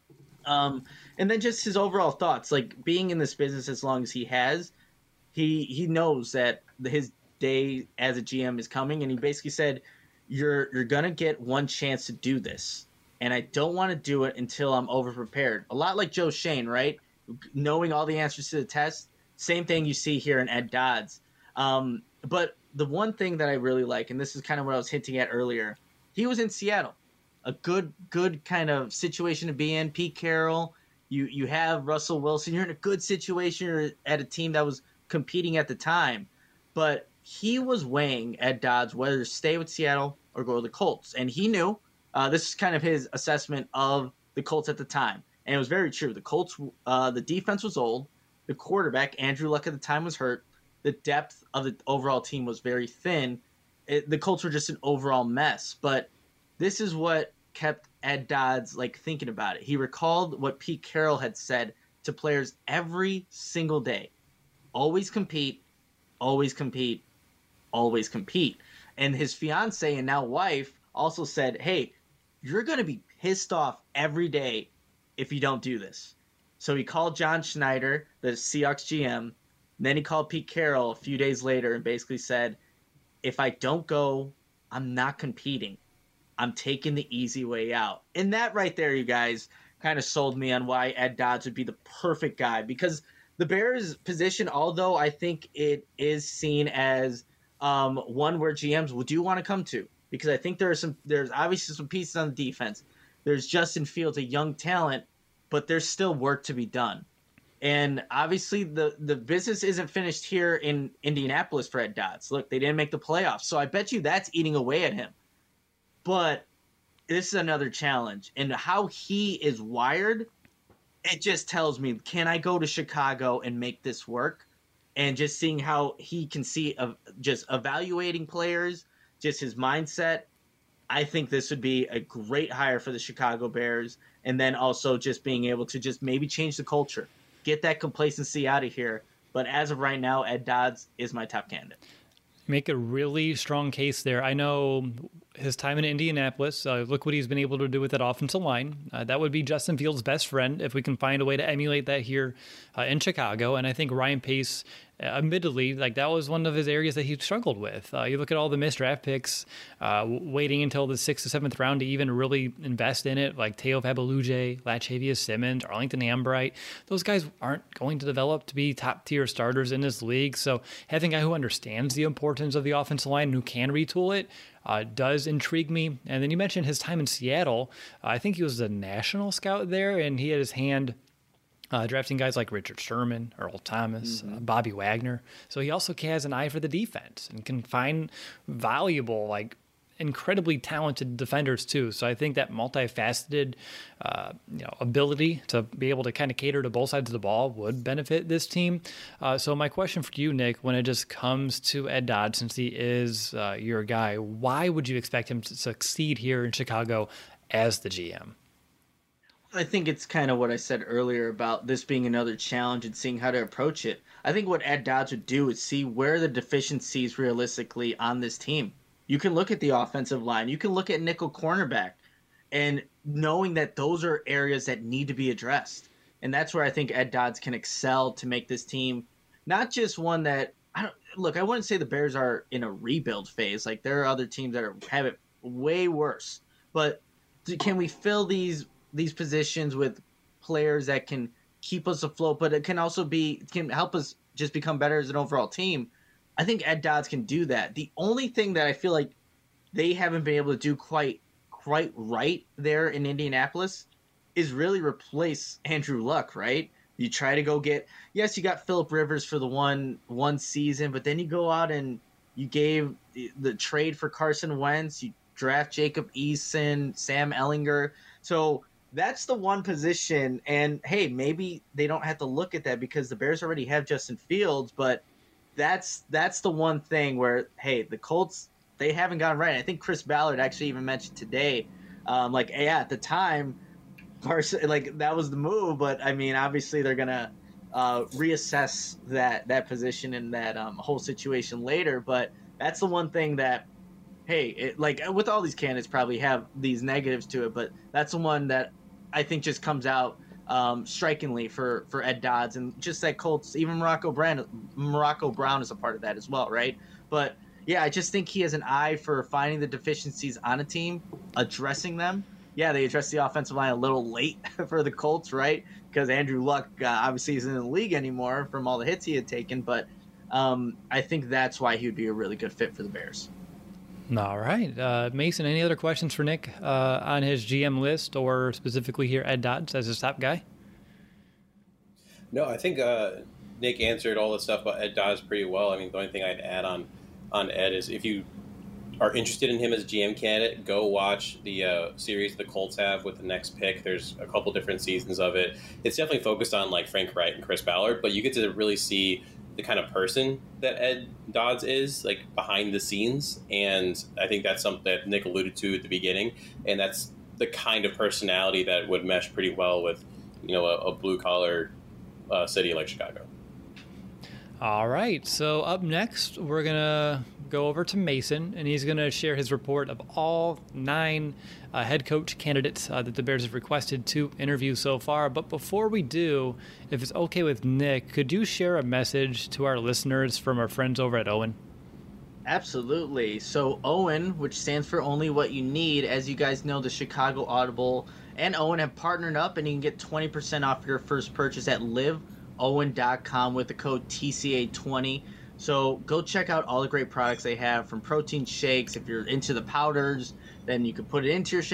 [SPEAKER 1] Um, and then just his overall thoughts, like being in this business as long as he has, he he knows that his day as a G M is coming, and he basically said, "You're you're gonna get one chance to do this, and I don't want to do it until I'm over prepared." A lot like Joe Schoen, right? Knowing all the answers to the test, same thing you see here in Ed Dodds. Um, but the one thing that I really like, and this is kind of what I was hinting at earlier, he was in Seattle. A good, good kind of situation to be in. Pete Carroll, you you have Russell Wilson. You're in a good situation. You're at a team that was competing at the time, but he was weighing Ed Dodds whether to stay with Seattle or go to the Colts, and he knew. Uh, this is kind of his assessment of the Colts at the time, and it was very true. The Colts, uh, the defense was old. The quarterback, Andrew Luck at the time, was hurt. The depth of the overall team was very thin. It, the Colts were just an overall mess, but this is what kept Ed Dodds like thinking about it. He recalled what Pete Carroll had said to players every single day. Always compete, always compete, always compete. And his fiance and now wife also said, hey, you're going to be pissed off every day if you don't do this. So he called John Schneider, the Seahawks G M. And then he called Pete Carroll a few days later and basically said, if I don't go, I'm not competing. I'm taking the easy way out. And that right there, you guys, kind of sold me on why Ed Dodds would be the perfect guy. Because the Bears' position, although I think it is seen as um, one where G Ms will do want to come to. Because I think there are some, there's obviously some pieces on the defense. There's Justin Fields, a young talent, but there's still work to be done. And obviously, the, the business isn't finished here in Indianapolis for Ed Dodds. Look, they didn't make the playoffs, so I bet you that's eating away at him. But this is another challenge. And how he is wired, it just tells me, can I go to Chicago and make this work? And just seeing how he can see of just evaluating players, just his mindset, I think this would be a great hire for the Chicago Bears. And then also just being able to just maybe change the culture, get that complacency out of here. But as of right now, Ed Dodds is my top candidate.
[SPEAKER 2] Make a really strong case there. I know his time in Indianapolis, uh, look what he's been able to do with that offensive line. Uh, that would be Justin Fields' best friend if we can find a way to emulate that here uh, in Chicago. And I think Ryan Pace, uh, admittedly, like that was one of his areas that he struggled with. Uh, you look at all the missed draft picks, uh, waiting until the sixth or seventh round to even really invest in it, like Teo Fabuluje, Latavius Simmons, Arlington Ambright. Those guys aren't going to develop to be top-tier starters in this league. So having a guy who understands the importance of the offensive line and who can retool it, Uh, does intrigue me. And then you mentioned his time in Seattle. Uh, I think he was a national scout there, and he had his hand uh, drafting guys like Richard Sherman, Earl Thomas, mm-hmm. uh, Bobby Wagner. So he also has an eye for the defense and can find valuable, like incredibly talented defenders too. So I think that multifaceted uh, you know, ability to be able to kind of cater to both sides of the ball would benefit this team. Uh, so my question for you, Nick, when it just comes to Ed Dodds, since he is uh, your guy, why would you expect him to succeed here in Chicago as the G M?
[SPEAKER 1] I think it's kind of what I said earlier about this being another challenge and seeing how to approach it. I think what Ed Dodds would do is see where the deficiencies realistically on this team. You can look at the offensive line. You can look at nickel cornerback and knowing that those are areas that need to be addressed. And that's where I think Ed Dodds can excel to make this team not just one that I don't look, I wouldn't say the Bears are in a rebuild phase. Like there are other teams that are, have it way worse. But can we fill these these positions with players that can keep us afloat, but it can also be can help us just become better as an overall team? I think Ed Dodds can do that. The only thing that I feel like they haven't been able to do quite quite right there in Indianapolis is really replace Andrew Luck, right? You try to go get – yes, you got Phillip Rivers for the one one season, but then you go out and you gave the, the trade for Carson Wentz. You draft Jacob Eason, Sam Ellinger. So that's the one position. And, hey, maybe they don't have to look at that because the Bears already have Justin Fields, but – That's that's the one thing where, hey, the Colts, they haven't gotten right. I think Chris Ballard actually even mentioned today, um, like, yeah, at the time, Carson, like, that was the move. But, I mean, obviously they're going to uh, reassess that that position and that um, whole situation later. But that's the one thing that, hey, it, like, with all these candidates probably have these negatives to it. But that's the one that I think just comes out Um, strikingly for, for Ed Dodds, and just that Colts, even Morocco Brown, Morocco Brown is a part of that as well, right? But yeah, I just think he has an eye for finding the deficiencies on a team, addressing them. Yeah, they addressed the offensive line a little late for the Colts, right? Because Andrew Luck uh, obviously isn't in the league anymore from all the hits he had taken, but um, I think that's why he would be a really good fit for the Bears.
[SPEAKER 2] All right. Uh, Mason, any other questions for Nick uh, on his G M list or specifically here Ed Dodds as his top guy?
[SPEAKER 3] No, I think uh, Nick answered all the stuff about Ed Dodds pretty well. I mean, the only thing I'd add on, on Ed is if you are interested in him as a G M candidate, go watch the uh, series the Colts have with the next pick. There's a couple different seasons of it. It's definitely focused on like Frank Wright and Chris Ballard, but you get to really see the kind of person that Ed Dodds is, like behind the scenes. And I think that's something that Nick alluded to at the beginning. And that's the kind of personality that would mesh pretty well with, you know, a, a blue collar uh, city like Chicago.
[SPEAKER 2] All right. So up next, we're going to go over to Mason, and he's going to share his report of all nine uh, head coach candidates uh, that the Bears have requested to interview so far. But before we do, if it's okay with Nick, could you share a message to our listeners from our friends over at Owen?
[SPEAKER 1] Absolutely. So Owen, which stands for Only What You Need, as you guys know, the Chicago Audible and Owen have partnered up, and you can get twenty percent off your first purchase at live owen dot com with the code T C A twenty. So go check out all the great products they have, from protein shakes. If you're into the powders, then you can put it into your shakes.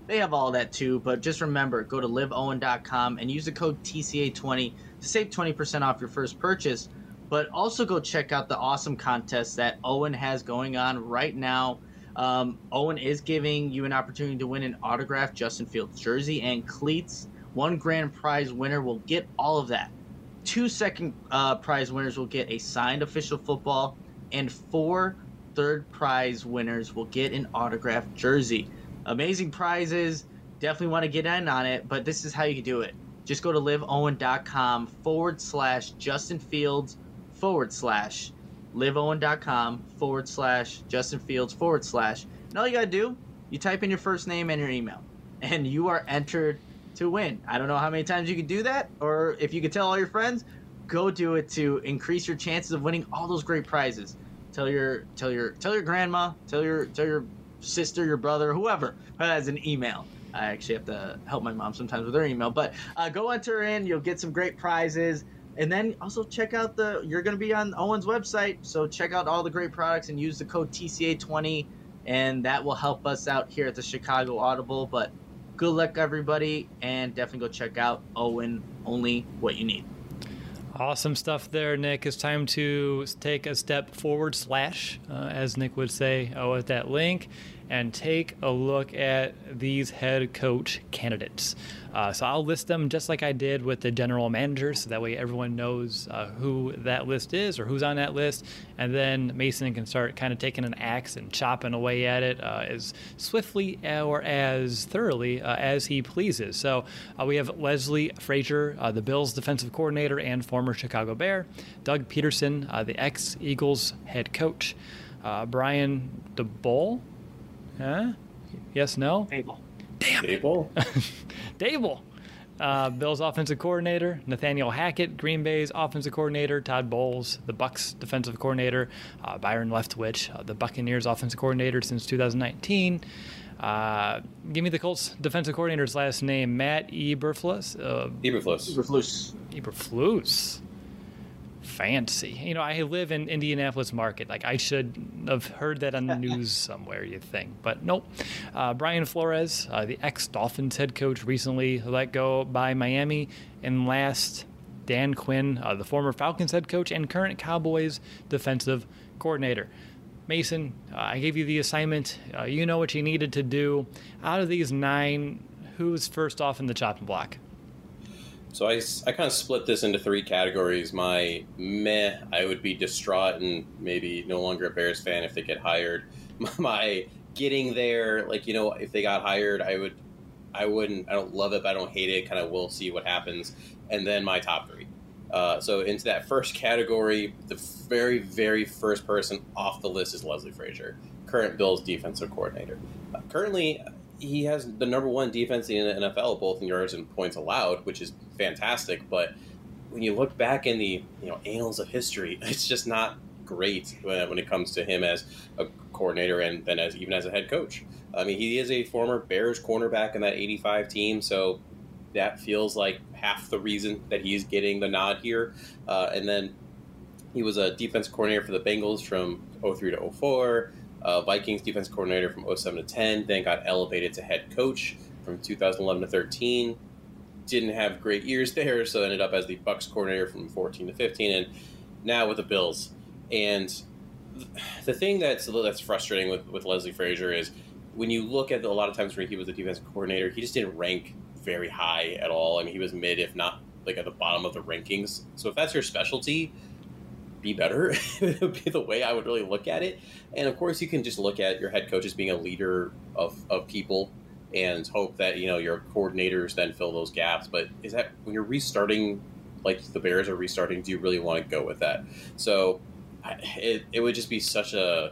[SPEAKER 1] They have all that too, but just remember, go to live owen dot com and use the code T C A twenty to save twenty percent off your first purchase. But also go check out the awesome contest that Owen has going on right now. Um, Owen is giving you an opportunity to win an autographed Justin Fields jersey and cleats. One grand prize winner will get all of that. Two second uh, prize winners will get a signed official football, and four third prize winners will get an autographed jersey. Amazing prizes. Definitely want to get in on it, but this is how you can do it. Just go to live owen dot com forward slash Justin Fields forward slash live owen dot com forward slash Justin Fields forward slash. And all you got to do, you type in your first name and your email, and you are entered to win. I don't know how many times you can do that, or if you can tell all your friends, go do it to increase your chances of winning all those great prizes. Tell your tell your tell your grandma, tell your tell your sister, your brother, whoever who has an email. I actually have to help my mom sometimes with her email, but uh, go enter in. You'll get some great prizes. And then also check out the, you're going to be on Owen's website, so check out all the great products and use the code T C A twenty, and that will help us out here at the Chicago Audible. But good luck, everybody, and definitely go check out Owen, only what you need.
[SPEAKER 2] Awesome stuff there, Nick. It's time to take a step forward slash, uh, as Nick would say, oh, at that link, and take a look at these head coach candidates. Uh, so I'll list them just like I did with the general managers, so that way everyone knows uh, who that list is or who's on that list. And then Mason can start kind of taking an axe and chopping away at it uh, as swiftly or as thoroughly uh, as he pleases. So uh, we have Leslie Frazier, uh, the Bills defensive coordinator and former Chicago Bear. Doug Peterson, uh, the ex-Eagles head coach. Uh, Brian DeBoll. Huh? Yes, no?
[SPEAKER 1] Fable.
[SPEAKER 2] Damn it.
[SPEAKER 3] Dable?
[SPEAKER 2] Dable. Uh, Bills offensive coordinator. Nathaniel Hackett, Green Bay's offensive coordinator. Todd Bowles, the Bucks defensive coordinator. Uh, Byron Leftwich, uh, the Buccaneers offensive coordinator since two thousand nineteen. Uh, give me the Colts defensive coordinator's last name. Matt Eberflus. Uh,
[SPEAKER 3] Eberflus.
[SPEAKER 1] Eberflus.
[SPEAKER 2] Eberflus. Fancy. You know, I live in Indianapolis market. Like, I should have heard that on the news somewhere, you think. But nope. Uh, Brian Flores, uh, the ex-Dolphins head coach, recently let go by Miami. And last, Dan Quinn, uh, the former Falcons head coach and current Cowboys defensive coordinator. Mason, uh, I gave you the assignment. Uh, you know what you needed to do. Out of these nine, who's first off in the chopping block?
[SPEAKER 3] So I, I kind of split this into three categories. My meh, I would be distraught and maybe no longer a Bears fan if they get hired. My getting there, like, you know, if they got hired, I would, I wouldn't, I don't love it, but I don't hate it. Kind of we'll see what happens. And then my top three. Uh, so into that first category, the very, very first person off the list is Leslie Frazier, current Bills defensive coordinator. Uh, currently, he has the number one defense in the N F L, both in yards and points allowed, which is fantastic. But when you look back in the you know annals of history, it's just not great when, when it comes to him as a coordinator and then as even as a head coach. I mean, he is a former Bears cornerback in that eighty-five team, so that feels like half the reason that he's getting the nod here. Uh, and then he was a defense coordinator for the Bengals from oh three to oh four. Uh, Vikings defense coordinator from oh seven to ten, then got elevated to head coach from two thousand eleven to thirteen. Didn't have great years there, so ended up as the Bucks coordinator from fourteen to fifteen, and now with the Bills. And the thing that's that's frustrating with, with Leslie Frazier is when you look at the, a lot of times where he was the defensive coordinator, he just didn't rank very high at all. I mean, he was mid, if not like at the bottom of the rankings. So if that's your specialty, be better. It would be the way I would really look at it. And of course, you can just look at your head coach as being a leader of, of people and hope that, you know, your coordinators then fill those gaps. But is that when you're restarting, like the Bears are restarting, do you really want to go with that? So I, it, it would just be such a,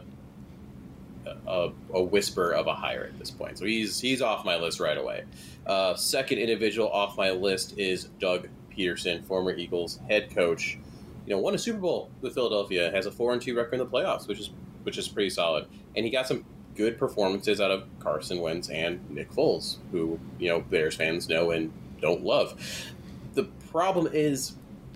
[SPEAKER 3] a a whisper of a hire at this point. So he's he's off my list right away. Uh, second individual off my list is Doug Peterson, former Eagles head coach. You know, won a Super Bowl with Philadelphia, has a four and two record in the playoffs, which is which is pretty solid. And he got some good performances out of Carson Wentz and Nick Foles, who, you know, Bears fans know and don't love. The problem is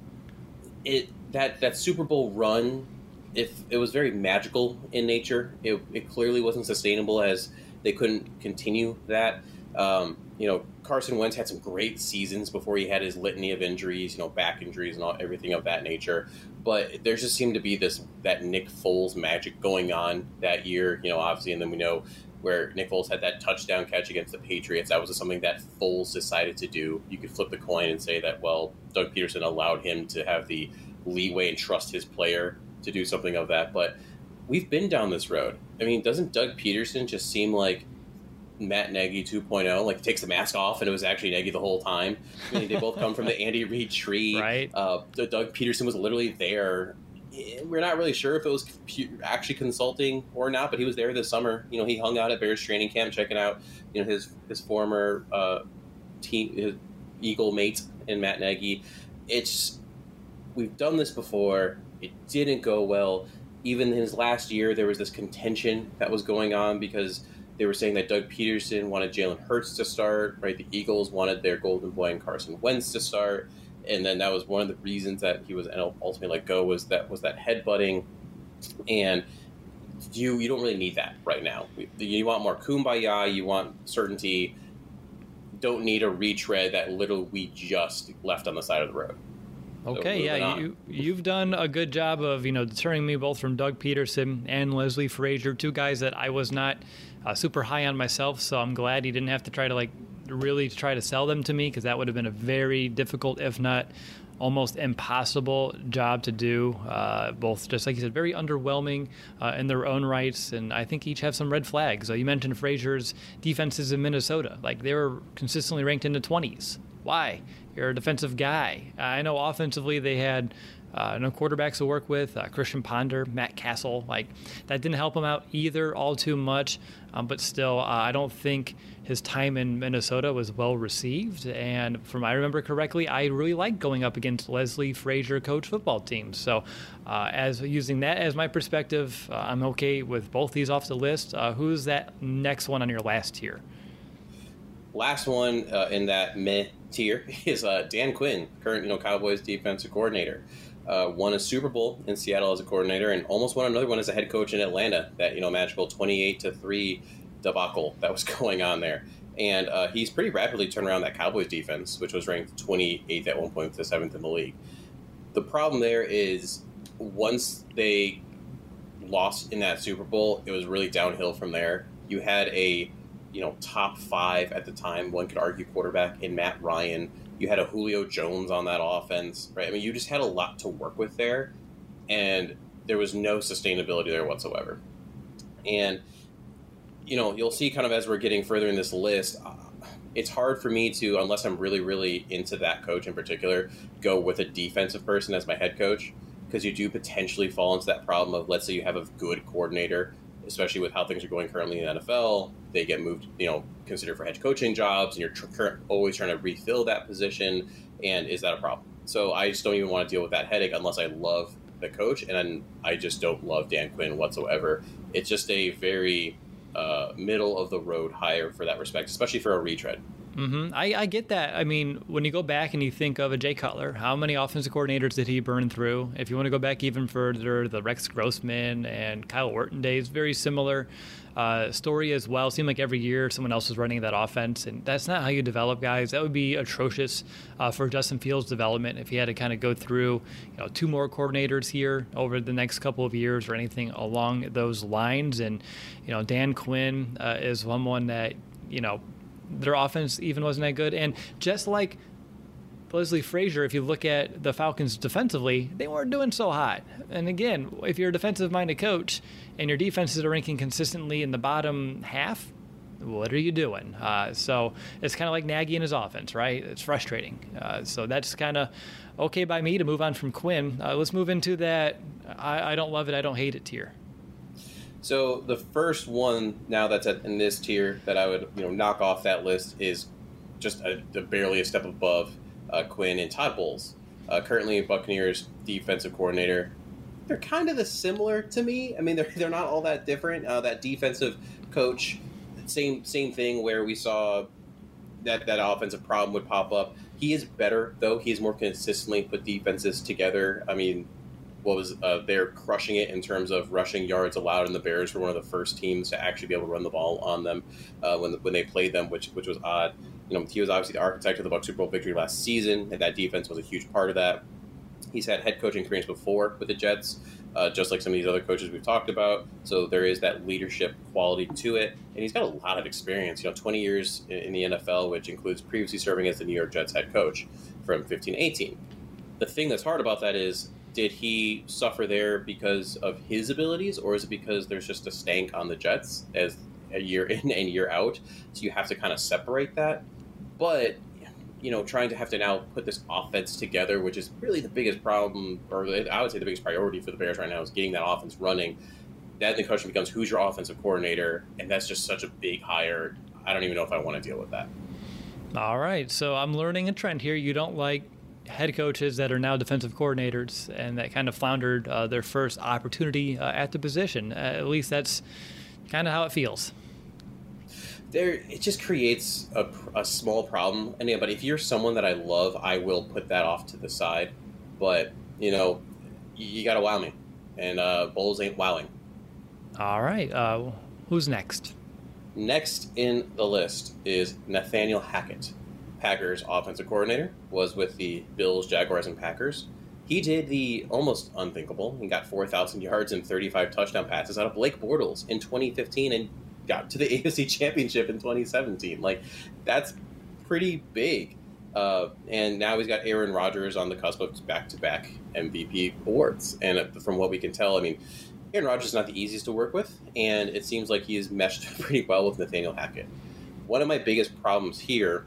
[SPEAKER 3] it that that Super Bowl run, if it was very magical in nature, it, it clearly wasn't sustainable as they couldn't continue that. Um, you know, Carson Wentz had some great seasons before he had his litany of injuries, you know, back injuries and all everything of that nature. But there just seemed to be this that Nick Foles magic going on that year, you know, obviously, and then we know where Nick Foles had that touchdown catch against the Patriots. That was something that Foles decided to do. You could flip the coin and say that, well, Doug Peterson allowed him to have the leeway and trust his player to do something of that. But we've been down this road. I mean, doesn't Doug Peterson just seem like Matt Nagy two point oh? Like, takes the mask off and it was actually Nagy the whole time. I mean, they both come from the Andy Reid tree.
[SPEAKER 2] Right.
[SPEAKER 3] Uh, Doug Peterson was literally there. We're not really sure if it was actually consulting or not, but he was there this summer. You know, he hung out at Bears training camp, checking out, you know, his his former uh, team, his Eagle mate in Matt Nagy. It's we've done this before. It didn't go well. Even in his last year, there was this contention that was going on because they were saying that Doug Peterson wanted Jalen Hurts to start, right? The Eagles wanted their golden boy and Carson Wentz to start. And then that was one of the reasons that he was ultimately let go was that was that headbutting, and you you don't really need that right now. You want more kumbaya, you want certainty. Don't need a retread that literally we just left on the side of the road.
[SPEAKER 2] Okay, so yeah, you, you've done a good job of, you know, deterring me both from Doug Peterson and Leslie Frazier, two guys that I was not uh, super high on myself, so I'm glad he didn't have to try to, like, really try to sell them to me, because that would have been a very difficult, if not almost impossible job to do. Uh, both, just like you said, very underwhelming uh, in their own rights, and I think each have some red flags. So you mentioned Frazier's defenses in Minnesota. Like, they were consistently ranked in the twenties. Why? You're a defensive guy. Uh, I know offensively they had uh, no quarterbacks to work with, uh, Christian Ponder, Matt Castle. Like, that didn't help him out either all too much, um, but still, uh, I don't think his time in Minnesota was well received. And from I remember correctly, I really liked going up against Leslie Frazier coach football teams. So uh, as using that as my perspective, uh, I'm okay with both these off the list. Uh, who's that next one on your last tier?
[SPEAKER 3] Last one uh, in that meh tier is uh, Dan Quinn, current you know Cowboys defensive coordinator. Uh, won a Super Bowl in Seattle as a coordinator, and almost won another one as a head coach in Atlanta. That you know magical twenty-eight to three debacle that was going on there, and uh, he's pretty rapidly turned around that Cowboys defense, which was ranked twenty-eighth at one point to seventh in the league. The problem there is once they lost in that Super Bowl, it was really downhill from there. You had a you know, top five at the time, one could argue, quarterback in Matt Ryan. You had a Julio Jones on that offense, right? I mean, you just had a lot to work with there, and there was no sustainability there whatsoever. And, you know, you'll see kind of as we're getting further in this list, uh, it's hard for me to, unless I'm really, really into that coach in particular, go with a defensive person as my head coach, because you do potentially fall into that problem of, let's say you have a good coordinator, especially with how things are going currently in the N F L, they get moved, you know, considered for head coaching jobs, and you're tr- always trying to refill that position. And is that a problem? So I just don't even want to deal with that headache unless I love the coach, and I just don't love Dan Quinn whatsoever. It's just a very uh, middle of the road hire for that respect, especially for a retread.
[SPEAKER 2] Mm-hmm. I, I get that. I mean, when you go back and you think of a Jay Cutler, how many offensive coordinators did he burn through? If you want to go back even further, the Rex Grossman and Kyle Orton days, very similar uh, story as well. It seemed like every year someone else was running that offense, and that's not how you develop guys. That would be atrocious uh, for Justin Fields' development if he had to kind of go through, you know, two more coordinators here over the next couple of years or anything along those lines. And, you know, Dan Quinn uh, is someone that, you know, their offense even wasn't that good. And just like Leslie Frazier, if you look at the Falcons defensively, they weren't doing so hot. And again, if you're a defensive-minded coach and your defenses are ranking consistently in the bottom half, what are you doing? Uh, so it's kind of like Nagy and his offense, right? It's frustrating. Uh, so that's kind of okay by me to move on from Quinn. Uh, let's move into that I, I don't love it, I don't hate it tier.
[SPEAKER 3] So the first one now that's at, in this tier that I would you know knock off that list is just a, a barely a step above uh, Quinn and Todd Bowles, uh, currently Buccaneers defensive coordinator. They're kind of the similar to me. I mean, they're they're not all that different. Uh, that defensive coach, same same thing where we saw that that offensive problem would pop up. He is better though. He's more consistently put defenses together. I mean, what was uh, they're crushing it in terms of rushing yards allowed, and the Bears were one of the first teams to actually be able to run the ball on them uh, when when they played them, which which was odd. You know, he was obviously the architect of the Bucs Super Bowl victory last season, and that defense was a huge part of that. He's had head coaching experience before with the Jets, uh, just like some of these other coaches we've talked about. So there is that leadership quality to it, and he's got a lot of experience. You know, twenty years in the N F L, which includes previously serving as the New York Jets head coach from fifteen to eighteen. The thing that's hard about that is, did he suffer there because of his abilities, or is it because there's just a stank on the Jets as a year in and year out? So you have to kind of separate that. But, you know, trying to have to now put this offense together, which is really the biggest problem, or I would say the biggest priority for the Bears right now, is getting that offense running. Then the question becomes, who's your offensive coordinator? And that's just such a big hire. I don't even know if I want to deal with that.
[SPEAKER 2] All right. So I'm learning a trend here. You don't like head coaches that are now defensive coordinators and that kind of floundered uh, their first opportunity uh, at the position. Uh, at least that's kind of how it feels.
[SPEAKER 3] There, it just creates a, a small problem. And yeah, but if you're someone that I love, I will put that off to the side. But, you know, you, you got to wow me. And uh, Bowles ain't wowing.
[SPEAKER 2] All right. Uh, who's next?
[SPEAKER 3] Next in the list is Nathaniel Hackett. Packers offensive coordinator, was with the Bills, Jaguars, and Packers. He did the almost unthinkable. He got four thousand yards and thirty-five touchdown passes out of Blake Bortles in twenty fifteen and got to the A F C Championship in twenty seventeen. Like, that's pretty big. Uh, and now he's got Aaron Rodgers on the cusp of back-to-back M V P awards. And from what we can tell, I mean, Aaron Rodgers is not the easiest to work with, and it seems like he has meshed pretty well with Nathaniel Hackett. One of my biggest problems here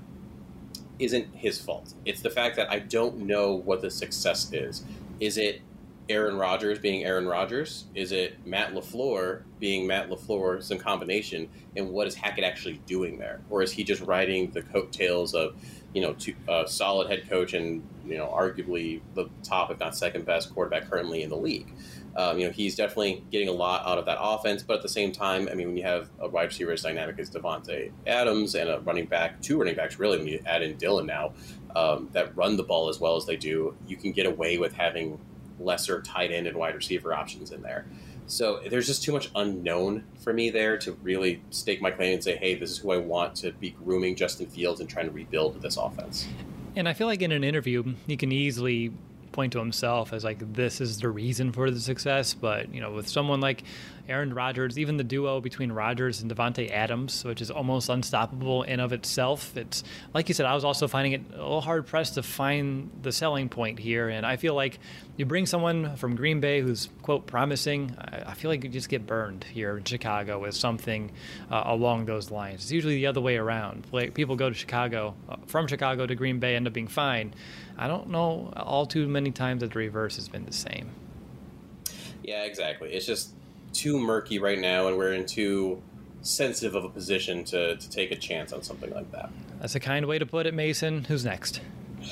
[SPEAKER 3] isn't his fault. It's the fact that I don't know what the success is. Is it Aaron Rodgers being Aaron Rodgers? Is it Matt LaFleur being Matt LaFleur, some combination? And what is Hackett actually doing there? Or is he just riding the coattails of, you know, a uh, solid head coach and, you know, arguably the top, if not second best quarterback currently in the league? Um, you know, he's definitely getting a lot out of that offense, but at the same time, I mean, when you have a wide receiver as dynamic as Davante Adams and a running back, two running backs really, when you add in Dylan now, um, that run the ball as well as they do, you can get away with having lesser tight end and wide receiver options in there. So there's just too much unknown for me there to really stake my claim and say, hey, this is who I want to be grooming Justin Fields and trying to rebuild this offense.
[SPEAKER 2] And I feel like in an interview, he can easily point to himself as like, this is the reason for the success. But, you know, with someone like Aaron Rodgers, even the duo between Rodgers and Davante Adams, which is almost unstoppable in of itself, it's like you said, I was also finding it a little hard pressed to find the selling point here. And I feel like you bring someone from Green Bay who's, quote, promising, I feel like you just get burned here in Chicago with something uh, along those lines. It's usually the other way around. Like, people go to Chicago, uh, from Chicago to Green Bay, end up being fine. I don't know all too many times that the reverse has been the same.
[SPEAKER 3] Yeah, exactly. It's just too murky right now, and we're in too sensitive of a position to, to take a chance on something like that.
[SPEAKER 2] That's a kind way to put it, Mason. Who's next?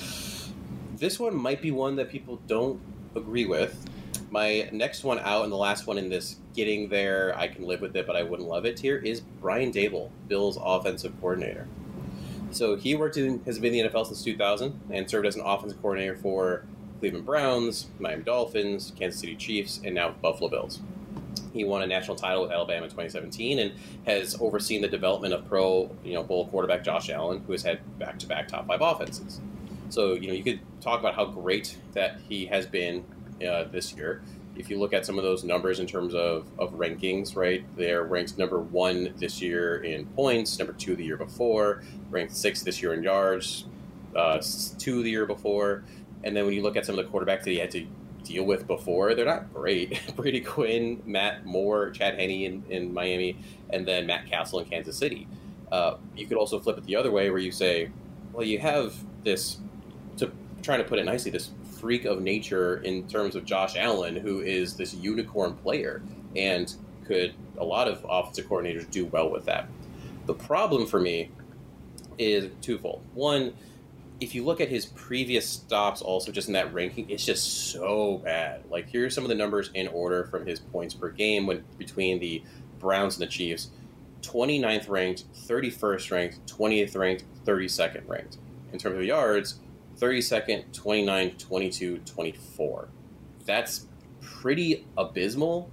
[SPEAKER 3] This one might be one that people don't agree with. My next one out and the last one in this getting there, I can live with it, but I wouldn't love it tier, is Brian Daboll, Bills offensive coordinator. So he worked in, has been in the N F L since two thousand and served as an offensive coordinator for Cleveland Browns, Miami Dolphins, Kansas City Chiefs, and now Buffalo Bills. He won a national title with Alabama in twenty seventeen and has overseen the development of pro, you know, Bowl quarterback Josh Allen, who has had back-to-back top five offenses. So, you know, you could talk about how great that he has been uh, this year. If you look at some of those numbers in terms of, of rankings, right, they're ranked number one this year in points, number two the year before, ranked sixth this year in yards, uh, two the year before. And then when you look at some of the quarterbacks that he had to deal with before, they're not great. Brady Quinn, Matt Moore, Chad Henne in, in Miami, and then Matt Castle in Kansas City. Uh, you could also flip it the other way where you say, well, you have this, to trying to put it nicely, this freak of nature in terms of Josh Allen, who is this unicorn player, and could a lot of offensive coordinators do well with that. The problem for me is twofold. One, if you look at his previous stops also just in that ranking, it's just so bad. Like, here's some of the numbers in order from his points per game when between the Browns and the Chiefs. twenty-ninth ranked, thirty-first ranked, twentieth ranked, thirty-second ranked. In terms of yards, thirty-second, twenty-ninth, twenty-two, twenty-four. That's pretty abysmal.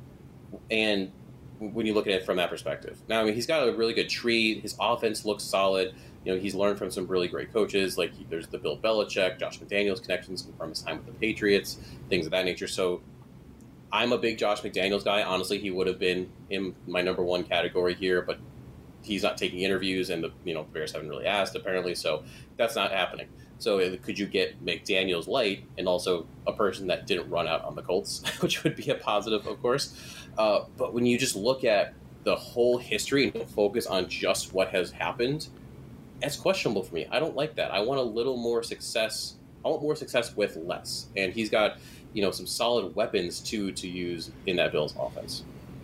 [SPEAKER 3] And when you look at it from that perspective, now I mean he's got a really good tree. His offense looks solid. You know, he's learned from some really great coaches. Like there's the Bill Belichick, Josh McDaniels connections from his time with the Patriots, things of that nature. So I'm a big Josh McDaniels guy. Honestly, he would have been in my number one category here, but he's not taking interviews, and the you know Bears haven't really asked apparently, so that's not happening. So uh, could you get McDaniels light and also a person that didn't run out on the Colts, which would be a positive, of course. Uh, but when you just look at the whole history and focus on just what has happened, that's questionable for me. I don't like that. I want a little more success. I want more success with less. And he's got, you know, some solid weapons to to use in that Bills offense.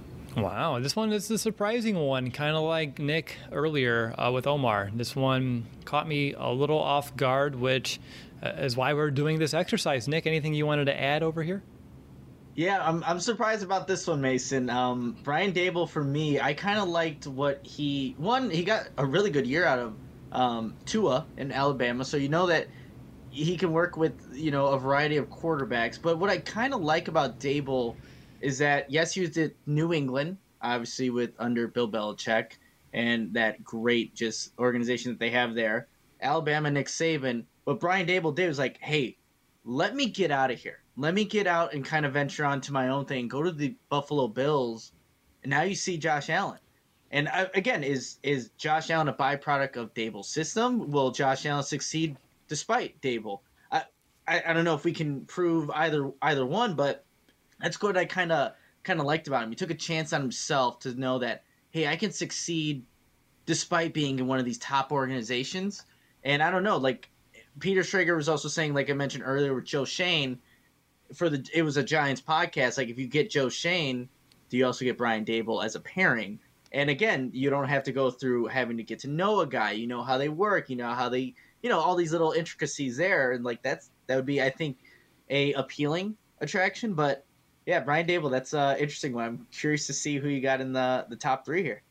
[SPEAKER 2] Wow, this one is the surprising one, kind of like Nick earlier uh, with Omar. This one caught me a little off guard, which uh, is why we're doing this exercise. Nick, anything you wanted to add over here?
[SPEAKER 1] Yeah, I'm I'm surprised about this one, Mason. Um, Brian Daboll, for me, I kind of liked what he one. He got a really good year out of um, Tua in Alabama, so you know that he can work with you know a variety of quarterbacks. But what I kind of like about Daboll is that yes, he was at New England, obviously with under Bill Belichick and that great just organization that they have there. Alabama, Nick Saban, what Brian Daboll did was like, hey, let me get out of here. Let me get out and kind of venture on to my own thing. Go to the Buffalo Bills, and now you see Josh Allen. And uh, again, is is Josh Allen a byproduct of Daboll's system? Will Josh Allen succeed despite Daboll? I, I I don't know if we can prove either either one, but that's what I kind of kind of liked about him. He took a chance on himself to know that, hey, I can succeed despite being in one of these top organizations. And I don't know, like Peter Schrager was also saying, like I mentioned earlier with Joe Schoen, for the it was a Giants podcast. Like if you get Joe Schoen, do you also get Brian Daboll as a pairing? And again, you don't have to go through having to get to know a guy. You know how they work. You know how they, you know all these little intricacies there, and like that's that would be, I think, a appealing attraction. But yeah, Brian Daboll, that's uh interesting one. I'm curious to see who you got in the the top three here.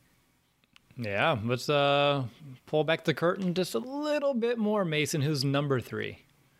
[SPEAKER 2] Yeah, let's uh, pull back the curtain just a little bit more, Mason. Who's number three?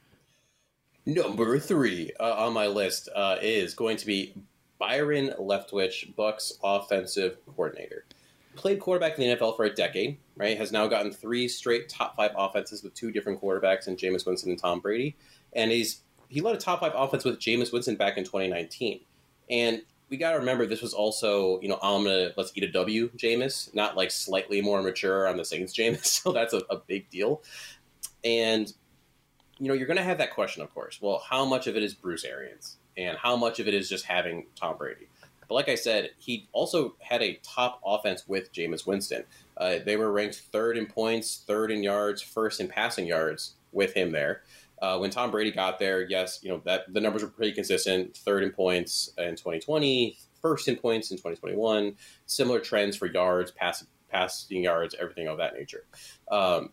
[SPEAKER 3] Number three uh, on my list uh, is going to be Byron Leftwich, Bucks offensive coordinator. Played quarterback in the N F L for a decade, right? Has now gotten three straight top five offenses with two different quarterbacks in Jameis Winston and Tom Brady. And he's he led a top five offense with Jameis Winston back in twenty nineteen. And we got to remember this was also, you know, I'm going to let's eat a W Jameis, not like slightly more mature on the Saints Jameis. So that's a, a big deal. And, you know, you're going to have that question, of course. Well, how much of it is Bruce Arians and how much of it is just having Tom Brady? But like I said, he also had a top offense with Jameis Winston. Uh, they were ranked third in points, third in yards, first in passing yards with him there. Uh, when Tom Brady got there, yes, you know that the numbers were pretty consistent. Third in points in twenty twenty, first in points in twenty twenty-one. Similar trends for yards, pass, passing yards, everything of that nature. Um,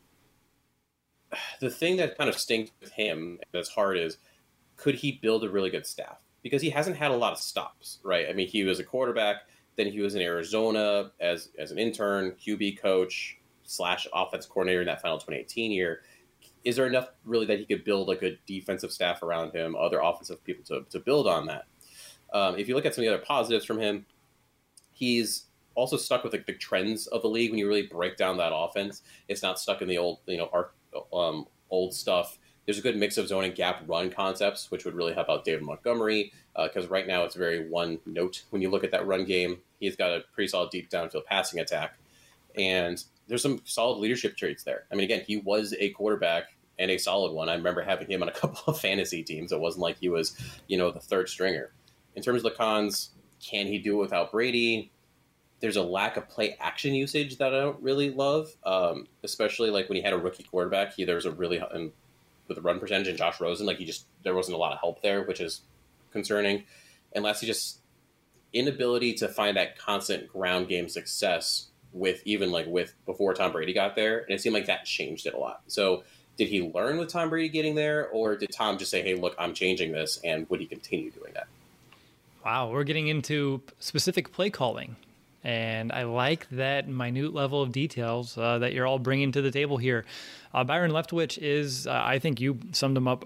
[SPEAKER 3] the thing that kind of stinks with him that's hard is, could he build a really good staff? Because he hasn't had a lot of stops, right? I mean, he was a quarterback, then he was in Arizona as as an intern, Q B coach slash offense coordinator in that final twenty eighteen year. Is there enough really that he could build a good defensive staff around him, other offensive people to, to build on that? Um, if you look at some of the other positives from him, he's also stuck with like, the trends of the league. When you really break down that offense, it's not stuck in the old, you know, art, um, old stuff. There's a good mix of zone and gap run concepts, which would really help out David Montgomery, because uh, right now it's very one note. When you look at that run game, he's got a pretty solid deep downfield passing attack. And there's some solid leadership traits there. I mean, again, he was a quarterback and a solid one. I remember having him on a couple of fantasy teams. It wasn't like he was, you know, the third stringer. In terms of the cons, can he do it without Brady? There's a lack of play action usage that I don't really love, um, especially like when he had a rookie quarterback. He there was a really um, with the run percentage and Josh Rosen, like he just there wasn't a lot of help there, which is concerning. And lastly, just inability to find that constant ground game success with even like with before Tom Brady got there, and it seemed like that changed it a lot. So did he learn with Tom Brady getting there, or did Tom just say, hey, look, I'm changing this, and would he continue doing that?
[SPEAKER 2] Wow, we're getting into specific play calling, and I like that minute level of details uh, that you're all bringing to the table here. Uh, Byron Leftwich is, uh, I think you summed him up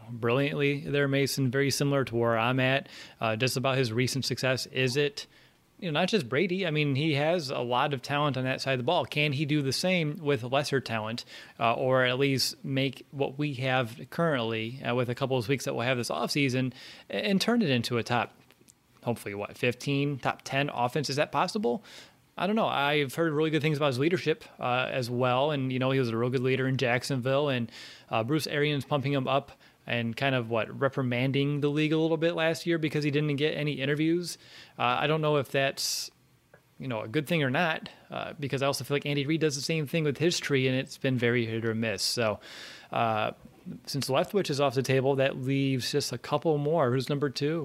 [SPEAKER 2] brilliantly there, Mason, very similar to where I'm at, uh, just about his recent success. Is it, you know, not just Brady? I mean, he has a lot of talent on that side of the ball. Can he do the same with lesser talent, uh, or at least make what we have currently uh, with a couple of weeks that we'll have this offseason and, and turn it into a top, hopefully, what, fifteen, top ten offense? Is that possible? I don't know. I've heard really good things about his leadership uh, as well. And, you know, he was a real good leader in Jacksonville. And uh, Bruce Arians pumping him up and kind of, what, reprimanding the league a little bit last year because he didn't get any interviews. Uh, I don't know if that's, you know, a good thing or not, uh, because I also feel like Andy Reid does the same thing with his tree, and it's been very hit or miss. So uh, since Leftwich is off the table, that leaves just a couple more. Who's number two?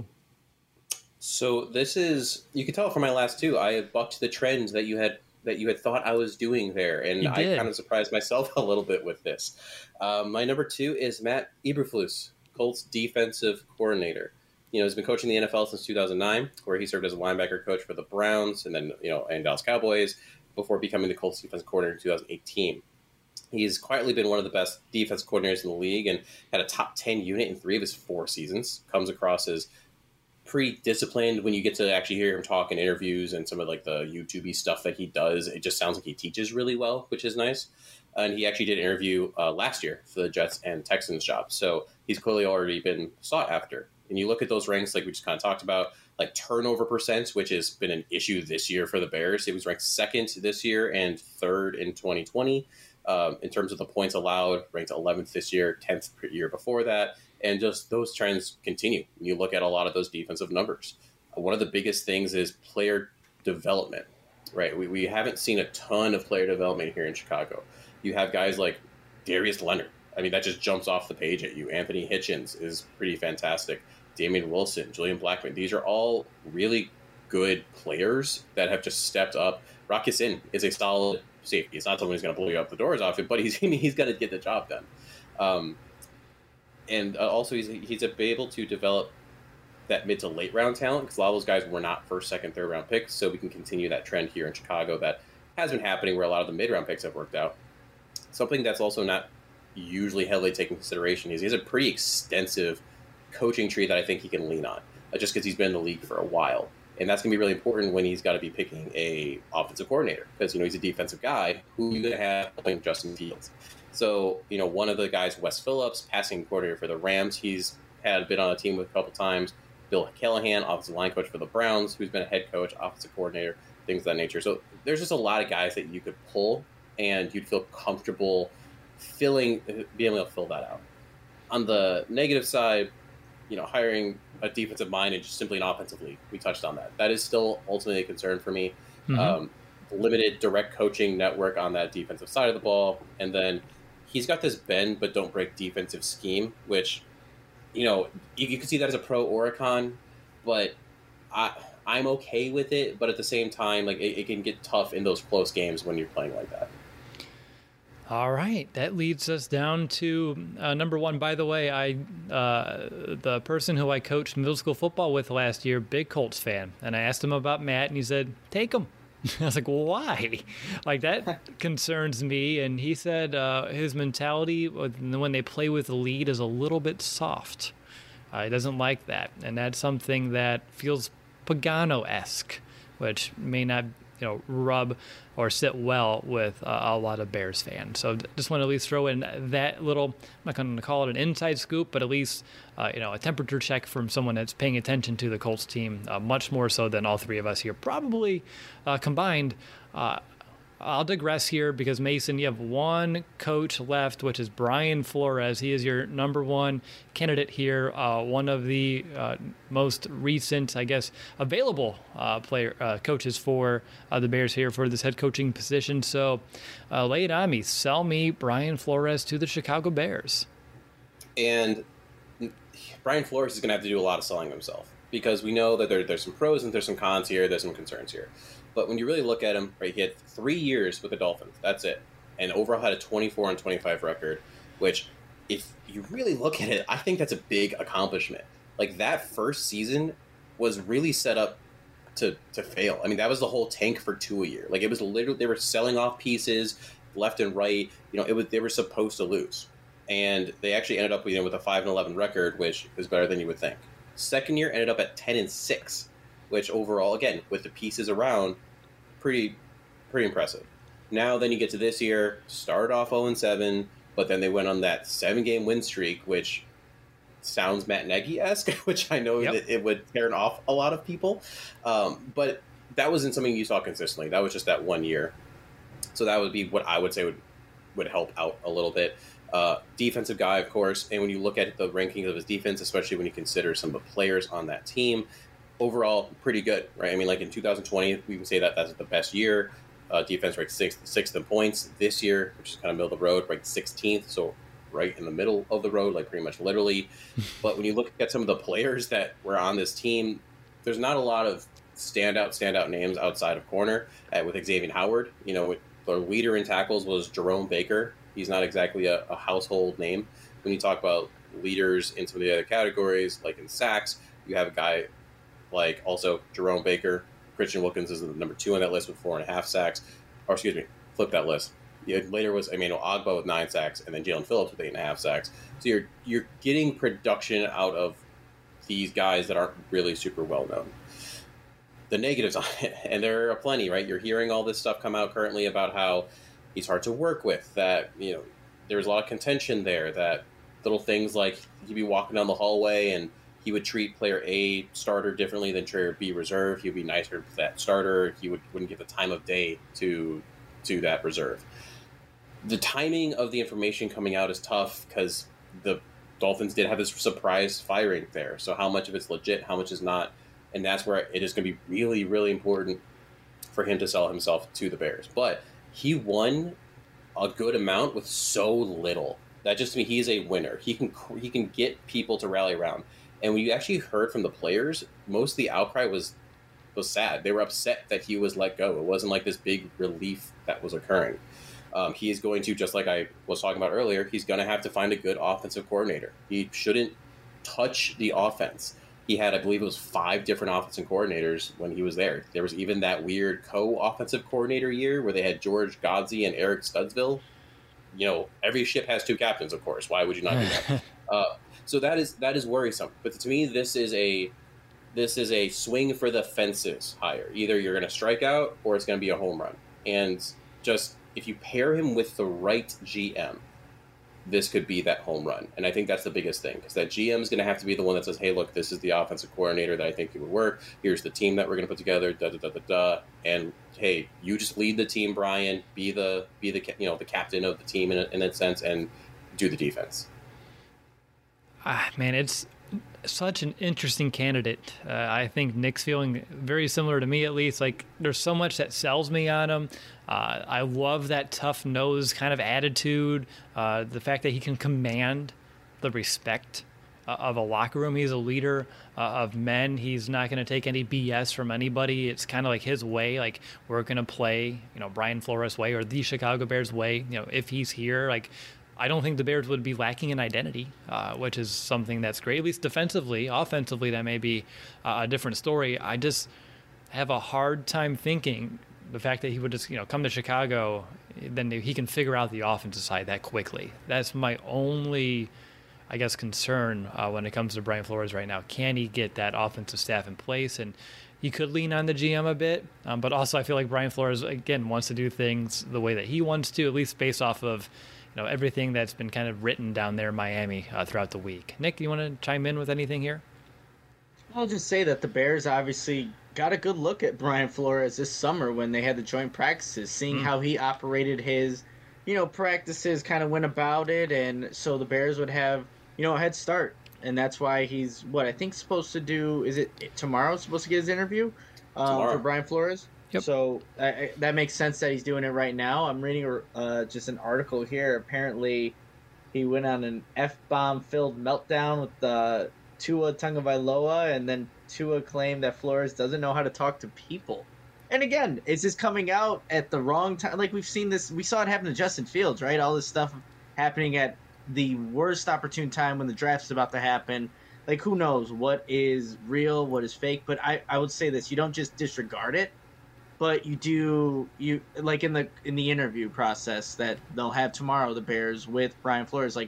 [SPEAKER 3] So this is, you can tell from my last two, I have bucked the trends that you had that you had thought I was doing there, and I kind of surprised myself a little bit with this. Um, my number two is Matt Eberflus, Colts defensive coordinator. You know, he's been coaching the N F L since two thousand nine, where he served as a linebacker coach for the Browns and then, you know, and Dallas Cowboys before becoming the Colts defensive coordinator in two thousand eighteen. He's quietly been one of the best defense coordinators in the league and had a top ten unit in three of his four seasons. Comes across as pretty disciplined when you get to actually hear him talk in interviews and some of like the YouTube-y stuff that he does. It just sounds like he teaches really well, which is nice. And he actually did an interview uh, last year for the Jets and Texans job. So he's clearly already been sought after. And you look at those ranks, like we just kind of talked about, like turnover percent, which has been an issue this year for the Bears. It was ranked second this year and third in twenty twenty. Um, in terms of the points allowed, ranked eleventh this year, tenth per year before that. And just those trends continue. When you look at a lot of those defensive numbers. One of the biggest things is player development, right? We, we haven't seen a ton of player development here in Chicago. You have guys like Darius Leonard. I mean, that just jumps off the page at you. Anthony Hitchens is pretty fantastic. Damian Wilson, Julian Blackman. These are all really good players that have just stepped up. Rock Ya-Sin is a solid safety. He's not someone who's going to blow you out the doors off it, but he's he's going to get the job done. Um, and uh, also, he's he's able to develop that mid to late round talent because a lot of those guys were not first, second, third round picks. So we can continue that trend here in Chicago that has been happening where a lot of the mid round picks have worked out. Something that's also not usually heavily taken consideration is he has a pretty extensive coaching tree that I think he can lean on, uh, just because he's been in the league for a while. And that's going to be really important when he's got to be picking a offensive coordinator because, you know, he's a defensive guy who you're going to have playing Justin Fields. So, you know, one of the guys, Wes Phillips, passing coordinator for the Rams, he's had been on a team with a couple times. Bill Callahan, offensive line coach for the Browns, who's been a head coach, offensive coordinator, things of that nature. So there's just a lot of guys that you could pull and you'd feel comfortable filling, being able to fill that out. On the negative side, you know, hiring a defensive mind and just simply an offensive league. We touched on that. That is still ultimately a concern for me. Mm-hmm. Um, limited direct coaching network on that defensive side of the ball. And then he's got this bend but don't break defensive scheme, which, you know, you, you can see that as a pro or a con, but I, I'm okay with it. But at the same time, like it, it can get tough in those close games when you're playing like that.
[SPEAKER 2] All right, that leads us down to uh, number one. By the way, I uh, the person who I coached middle school football with last year, big Colts fan, and I asked him about Matt, and he said, "Take him." I was like, "Why?" Like that concerns me. And he said uh, his mentality when they play with the lead is a little bit soft. Uh, he doesn't like that, and that's something that feels Pagano-esque, which may not, you know, rub or sit well with uh, a lot of Bears fans. So just want to at least throw in that little, I'm not going to call it an inside scoop, but at least, uh, you know, a temperature check from someone that's paying attention to the Colts team, uh, much more so than all three of us here, probably uh, combined. Uh, I'll digress here because, Mason, you have one coach left, which is Brian Flores. He is your number one candidate here, uh, one of the uh, most recent, I guess, available uh, player uh, coaches for uh, the Bears here for this head coaching position. So uh, lay it on me. Sell me Brian Flores to the Chicago Bears.
[SPEAKER 3] And Brian Flores is going to have to do a lot of selling himself because we know that there, there's some pros and there's some cons here. There's some concerns here. But when you really look at him, right, he had three years with the Dolphins. That's it. And overall had a twenty-four and twenty-five record, which, if you really look at it, I think that's a big accomplishment. Like, that first season was really set up to to fail. I mean, that was the whole tank for two a year. Like, it was literally, they were selling off pieces left and right. You know, it was they were supposed to lose. and they actually ended up you know, with a five and eleven record, which is better than you would think. Second year ended up at ten and six, which overall, again, with the pieces around, pretty pretty impressive. Now, then you get to this year, started off oh and seven, but then they went on that seven-game win streak, which sounds Matt Nagy-esque, which I know yep. that it would turn off a lot of people. Um, but that wasn't something you saw consistently. That was just that one year. So that would be what I would say would, would help out a little bit. Uh, defensive guy, of course, and when you look at the rankings of his defense, especially when you consider some of the players on that team, overall, pretty good, right? I mean, like in two thousand twenty, we would say that that's the best year. Uh, defense ranked sixth, sixth in points. This year, which is kind of middle of the road, ranked sixteenth, so right in the middle of the road, like pretty much literally. But when you look at some of the players that were on this team, there's not a lot of standout, standout names outside of corner uh, with Xavier Howard. You know, the leader in tackles was Jerome Baker. He's not exactly a, a household name. When you talk about leaders in some of the other categories, like in sacks, you have a guy like also Jerome Baker. Christian Wilkins is the number two on that list with four and a half sacks. Or excuse me, flip that list. Yeah, later was Emmanuel Ogba with nine sacks, and then Jalen Phillips with eight and a half sacks. So you're you're getting production out of these guys that aren't really super well known. The negatives on it, and there are plenty, right? You're hearing all this stuff come out currently about how he's hard to work with. That you know, there's a lot of contention there. That little things like he'd be walking down the hallway and he would treat player A starter differently than player B reserve. He'd be nicer to that starter. He would, wouldn't give the time of day to to that reserve. The timing of the information coming out is tough because the Dolphins did have this surprise firing there. So how much of it's legit, how much is not? And that's where it is going to be really, really important for him to sell himself to the Bears. But he won a good amount with so little. That just means he's a winner. He can he can get people to rally around. And when you actually heard from the players, most of the outcry was was sad. They were upset that he was let go. It wasn't like this big relief that was occurring. Um, he is going to, just like I was talking about earlier, he's going to have to find a good offensive coordinator. He shouldn't touch the offense. He had, I believe it was five different offensive coordinators when he was there. There was even that weird co-offensive coordinator year where they had George Godsey and Eric Studsville. You know, every ship has two captains, of course. Why would you not do that? uh, so that is that is worrisome. But to me, this is a this is a swing for the fences hire. Either you're going to strike out or it's going to be a home run. And just if you pair him with the right G M, this could be that home run. And I think that's the biggest thing, because that G M is going to have to be the one that says, hey, look, this is the offensive coordinator that I think it would work. Here's the team that we're going to put together, da da da da da. And hey, you just lead the team, Brian. Be the be the you know the captain of the team in a, in a sense, and do the defense.
[SPEAKER 2] Ah, man, it's such an interesting candidate. Uh, I think Nick's feeling very similar to me, at least. Like, there's so much that sells me on him. Uh, I love that tough nose kind of attitude. Uh, the fact that he can command the respect uh, of a locker room. He's a leader uh, of men. He's not going to take any B S from anybody. It's kind of like his way. Like, we're going to play, you know, Brian Flores' way or the Chicago Bears way. You know, if he's here, like, I don't think the Bears would be lacking in identity, uh, which is something that's great. At least defensively. Offensively, that may be uh, a different story. I just have a hard time thinking the fact that he would just, you know, come to Chicago, then he can figure out the offensive side that quickly. That's my only, I guess, concern uh, when it comes to Brian Flores right now. Can he get that offensive staff in place? And he could lean on the G M a bit, um, but also I feel like Brian Flores, again, wants to do things the way that he wants to, at least based off of, you know, everything that's been kind of written down there in Miami uh, throughout the week. Nick, you want to chime in with anything here?
[SPEAKER 1] I'll just say that the Bears obviously got a good look at Brian Flores this summer when they had the joint practices, seeing mm. how he operated his, you know, practices, kind of went about it, and so the Bears would have, you know, a head start. And that's why he's, what I think, supposed to do, is it tomorrow, supposed to get his interview uh, for Brian Flores?
[SPEAKER 2] Yep.
[SPEAKER 1] So uh, that makes sense that he's doing it right now. I'm reading uh, just an article here. Apparently, he went on an F-bomb filled meltdown with uh, Tua Tagovailoa, and then Tua claimed that Flores doesn't know how to talk to people. And again, it's just coming out at the wrong time. Like, we've seen this, we saw it happen to Justin Fields, right? All this stuff happening at the worst opportune time when the draft's about to happen. Like, who knows what is real, what is fake? But I, I would say this: you don't just disregard it, but you do, you like in the in the interview process that they'll have tomorrow, the Bears with Brian Flores, like,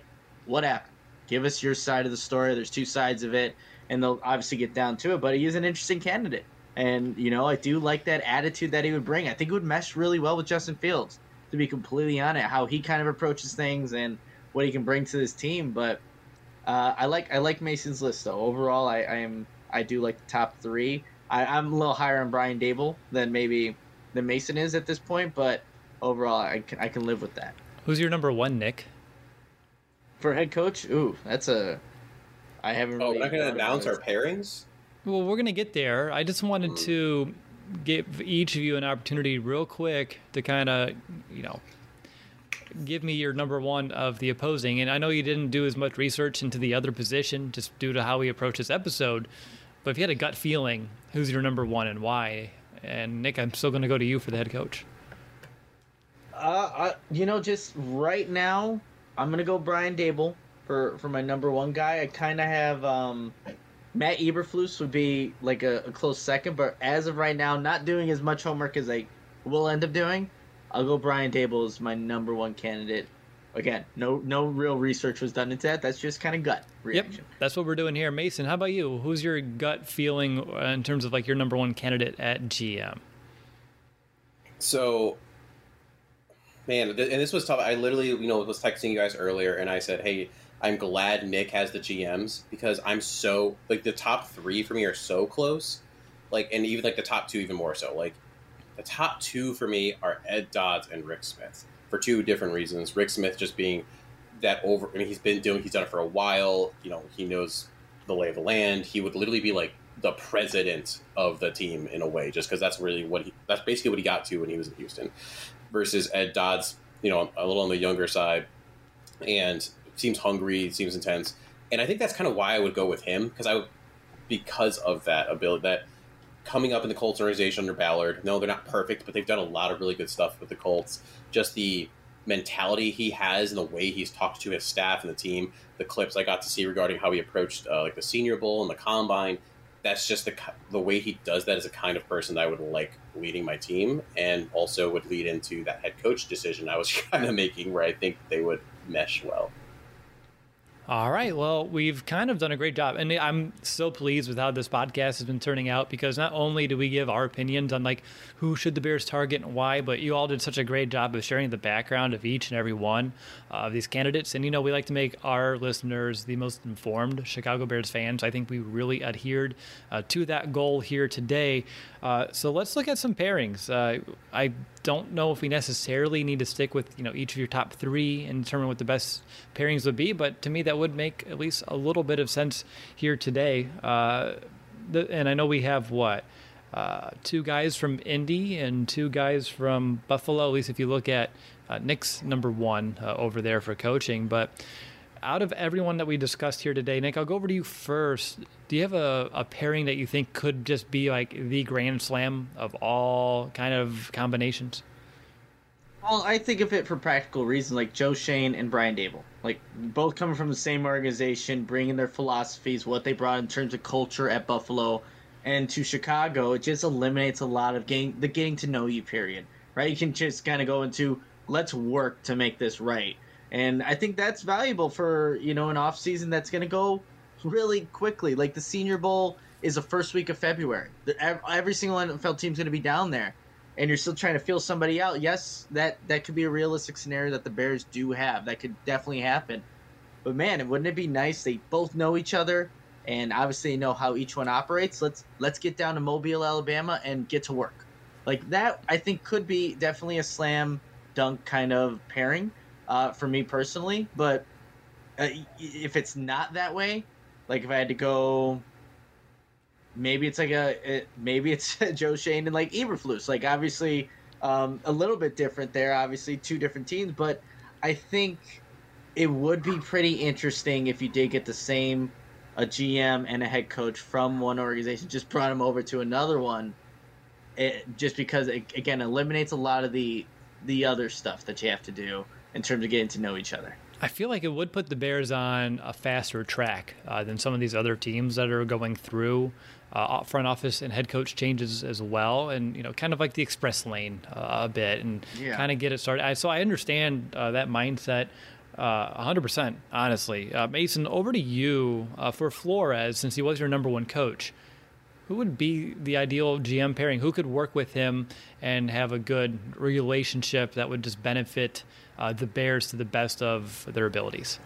[SPEAKER 1] what happened? Give us your side of the story. There's two sides of it, and they'll obviously get down to it. But he is an interesting candidate, and you know I do like that attitude that he would bring. I think it would mesh really well with Justin Fields, to be completely honest, how he kind of approaches things and what he can bring to this team. But uh, I like I like Mason's list though. Overall, I, I am I do like the top three. I, I'm a little higher on Brian Dable than maybe than Mason is at this point, but overall, I can I can live with that.
[SPEAKER 2] Who's your number one, Nick?
[SPEAKER 1] For head coach, ooh, that's a. I haven't.
[SPEAKER 3] Oh,
[SPEAKER 1] really
[SPEAKER 3] we're not going to announce our pairings.
[SPEAKER 2] Well, we're going to get there. I just wanted mm. to give each of you an opportunity, real quick, to kind of, you know, give me your number one of the opposing. And I know you didn't do as much research into the other position, just due to how we approach this episode. But if you had a gut feeling, who's your number one and why? And Nick, I'm still going to go to you for the head coach.
[SPEAKER 1] Uh, I, you know, just right now, I'm going to go Brian Dable for, for my number one guy. I kind of have um, Matt Eberflus would be like a, a close second, but as of right now, not doing as much homework as I will end up doing, I'll go Brian Dable as my number one candidate. Again, no no real research was done into that. That's just kind of gut reaction.
[SPEAKER 2] Yep, that's what we're doing here. Mason, how about you? Who's your gut feeling in terms of like your number one candidate at G M?
[SPEAKER 3] So, man, and this was tough. I literally, you know, was texting you guys earlier, and I said, hey, I'm glad Nick has the G Ms because I'm so, like, the top three for me are so close. Like, and even, like, the top two even more so. Like, the top two for me are Ed Dodds and Rick Smith for two different reasons. Rick Smith just being that over, I mean, he's been doing, he's done it for a while. You know, he knows the lay of the land. He would literally be, like, the president of the team in a way, just because that's really what he, that's basically what he got to when he was in Houston. Versus Ed Dodds, you know, a little on the younger side, and seems hungry, seems intense, and I think that's kind of why I would go with him because I, would, because of that ability, that coming up in the Colts organization under Ballard. No, they're not perfect, but they've done a lot of really good stuff with the Colts. Just the mentality he has and the way he's talked to his staff and the team. The clips I got to see regarding how he approached uh, like the Senior Bowl and the Combine. That's just the the way he does that is a kind of person that I would like leading my team, and also would lead into that head coach decision I was kind of making, where I think they would mesh well.
[SPEAKER 2] All right. Well, we've kind of done a great job. And I'm so pleased with how this podcast has been turning out, because not only do we give our opinions on like who should the Bears target and why, but you all did such a great job of sharing the background of each and every one of these candidates. And, you know, we like to make our listeners the most informed Chicago Bears fans. I think we really adhered uh, to that goal here today. Uh, so let's look at some pairings. Uh, I don't know if we necessarily need to stick with, you know, each of your top three and determine what the best pairings would be, but to me that would make at least a little bit of sense here today. Uh, the, and I know we have what uh, two guys from Indy and two guys from Buffalo. At least if you look at uh, Nick's number one uh, over there for coaching. But out of everyone that we discussed here today, Nick, I'll go over to you first. Do you have a, a pairing that you think could just be like the grand slam of all kind of combinations?
[SPEAKER 1] Well, I think of it for practical reasons, like Joe Schoen and Brian Dable. Like, both coming from the same organization, bringing their philosophies, what they brought in terms of culture at Buffalo and to Chicago. It just eliminates a lot of getting, the getting to know you period, right? You can just kind of go into, let's work to make this right. And I think that's valuable for, you know, an off season that's going to go really quickly. Like the Senior Bowl is the first week of February. Every single N F L team's going to be down there, and you're still trying to feel somebody out. Yes, that, that could be a realistic scenario that the Bears do have. That could definitely happen. But man, wouldn't it be nice? They both know each other, and obviously know how each one operates. Let's let's get down to Mobile, Alabama, and get to work. Like that, I think could be definitely a slam dunk kind of pairing. Uh, for me personally, but uh, if it's not that way, like if I had to go, maybe it's like a, it, maybe it's Joe Schoen and like Eberflus, like obviously um, a little bit different there, obviously two different teams, but I think it would be pretty interesting if you did get the same, a G M and a head coach from one organization, just brought them over to another one, it, just because it, again, eliminates a lot of the, the other stuff that you have to do in terms of getting to know each other.
[SPEAKER 2] I feel like it would put the Bears on a faster track uh, than some of these other teams that are going through uh, front office and head coach changes as well, and you know, kind of like the express lane uh, a bit, and yeah. kind of get it started. I, so I understand uh, that mindset. Uh, one hundred percent, honestly. Uh, Mason, over to you uh, for Flores, since he was your number one coach. Who would be the ideal G M pairing? Who could work with him and have a good relationship that would just benefit uh, the Bears to the best of their abilities?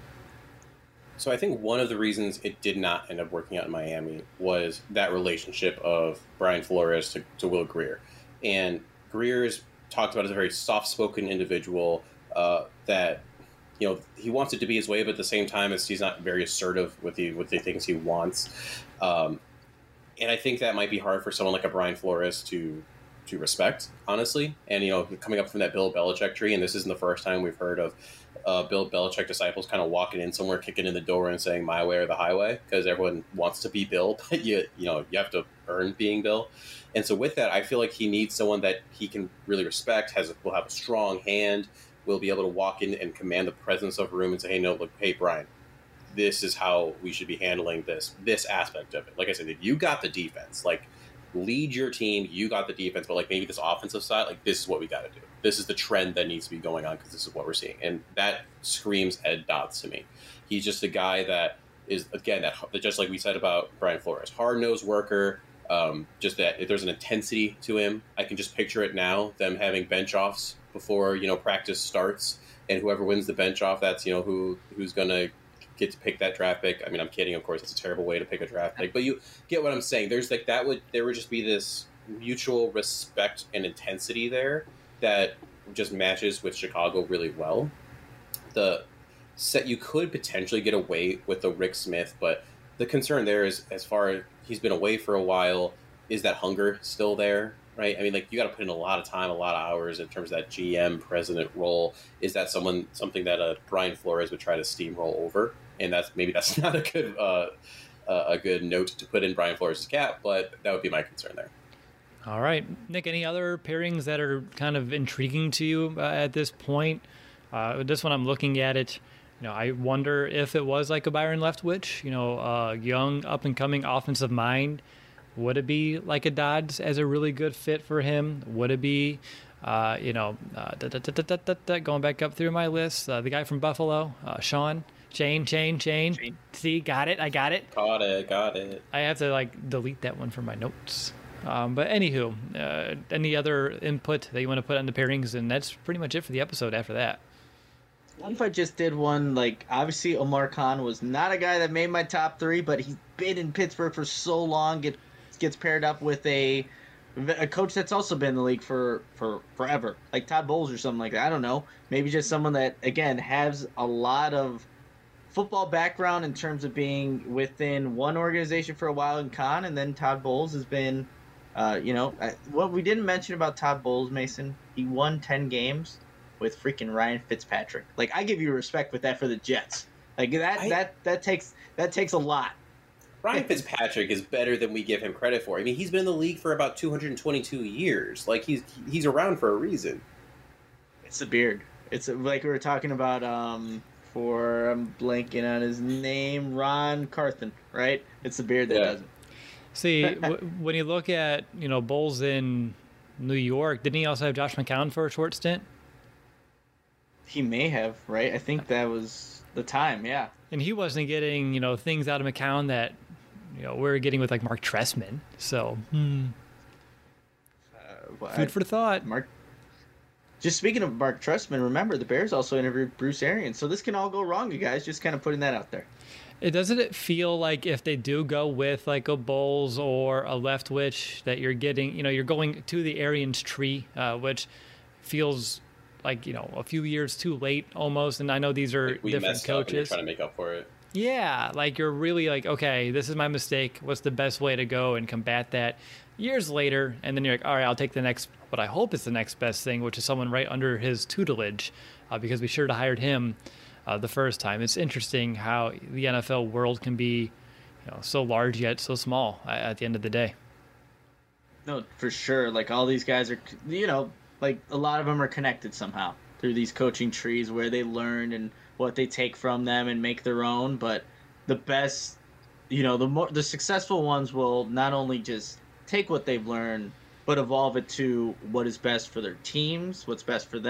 [SPEAKER 3] So I think one of the reasons it did not end up working out in Miami was that relationship of Brian Flores to, to Will Grier. And Grier's talked about as a very soft-spoken individual uh, that, you know, he wants it to be his way, but at the same time, it's, he's not very assertive with the with the things he wants. Um, and I think that might be hard for someone like a Brian Flores to to respect, honestly. And, you know, coming up from that Bill Belichick tree, and this isn't the first time we've heard of uh, Bill Belichick disciples kind of walking in somewhere, kicking in the door and saying my way or the highway, because everyone wants to be Bill, but you, you know, you have to earn being Bill. And so with that, I feel like he needs someone that he can really respect, has will have a strong hand, will be able to walk in and command the presence of a room and say, hey, no, look, hey, Brian, this is how we should be handling this, this aspect of it. Like I said, if you got the defense, like, lead your team, you got the defense, but like maybe this offensive side, like this is what we got to do. This is the trend that needs to be going on because this is what we're seeing. And that screams Ed Dotz to me. He's just a guy that is, again, that just like we said about Brian Flores, hard-nosed worker, um, just that if there's an intensity to him. I can just picture it now, them having bench offs before, you know, practice starts, and whoever wins the bench off, that's, you know, who who's going to get to pick that draft pick. I mean, I'm kidding, of course, it's a terrible way to pick a draft pick, but you get what I'm saying. There's like that would there would just be this mutual respect and intensity there that just matches with Chicago really well. The set you could potentially get away with the Rick Smith, but the concern there is, as far as he's been away for a while, is that hunger still there? Right? I mean, like, you got to put in a lot of time, a lot of hours in terms of that G M president role. Is that someone something that uh, Brian Flores would try to steamroll over? And that's maybe that's not a good uh, uh, a good note to put in Brian Flores' cap, but that would be my concern there.
[SPEAKER 2] All right, Nick. Any other pairings that are kind of intriguing to you uh, at this point? Uh, this one, I'm looking at it. You know, I wonder if it was like a Byron Leftwich, you know, a young up and coming offensive mind. Would it be like a Dodds as a really good fit for him? Would it be, uh, you know, uh, da, da, da, da, da, da, going back up through my list, uh, the guy from Buffalo, uh, Sean, Chain, Chain, Chain. Chain. See, got it. I got it.
[SPEAKER 3] Got it. Got it.
[SPEAKER 2] I have to like delete that one from my notes. Um, but anywho, uh, any other input that you want to put on the pairings? And that's pretty much it for the episode after that.
[SPEAKER 1] What if I just did one, like, obviously Omar Khan was not a guy that made my top three, but he's been in Pittsburgh for so long, get, gets paired up with a a coach that's also been in the league for, for forever, like Todd Bowles or something like that. I don't know. Maybe just someone that, again, has a lot of football background in terms of being within one organization for a while in Khan, and then Todd Bowles has been, uh, you know, what we didn't mention about Todd Bowles, Mason, he won ten games with freaking Ryan Fitzpatrick. Like, I give you respect with that for the Jets. Like, that I, that that takes that takes a lot.
[SPEAKER 3] Ryan Fitzpatrick is better than we give him credit for. I mean, he's been in the league for about two hundred twenty-two years. Like, he's he's around for a reason.
[SPEAKER 1] It's the beard. It's like we were talking about um, for, I'm blanking on his name, Ron Carthen, right? It's the beard that yeah. does it.
[SPEAKER 2] See, w- when you look at, you know, Bowles in New York, didn't he also have Josh McCown for a short stint?
[SPEAKER 1] He may have, right? I think that was the time, yeah.
[SPEAKER 2] And he wasn't getting, you know, things out of McCown that, you know, we're getting with, like, Mark Trestman. So, hmm. Uh, well, Food I, for thought.
[SPEAKER 1] Mark. Just speaking of Mark Trestman, remember, the Bears also interviewed Bruce Arians. So this can all go wrong, you guys. Just kind of putting that out there.
[SPEAKER 2] It doesn't it feel like if they do go with, like, a Bowles or a Leftwich, that you're getting, you know, you're going to the Arians tree, uh, which feels like, you know, a few years too late almost. And I know these are
[SPEAKER 3] like we
[SPEAKER 2] different
[SPEAKER 3] messed
[SPEAKER 2] coaches.
[SPEAKER 3] Up and you're trying to make up for it.
[SPEAKER 2] Yeah, like you're really like, okay, this is my mistake. What's the best way to go and combat that? Years later, and then you're like, all right, I'll take the next, what I hope is the next best thing, which is someone right under his tutelage, uh, because we should have hired him uh, the first time. It's interesting how the N F L world can be, you know, so large yet so small at the end of the day.
[SPEAKER 1] No, for sure. Like, all these guys are, you know, like, a lot of them are connected somehow through these coaching trees where they learn and what they take from them and make their own. But the best, you know, the more the successful ones will not only just take what they've learned, but evolve it to what is best for their teams, what's best for them,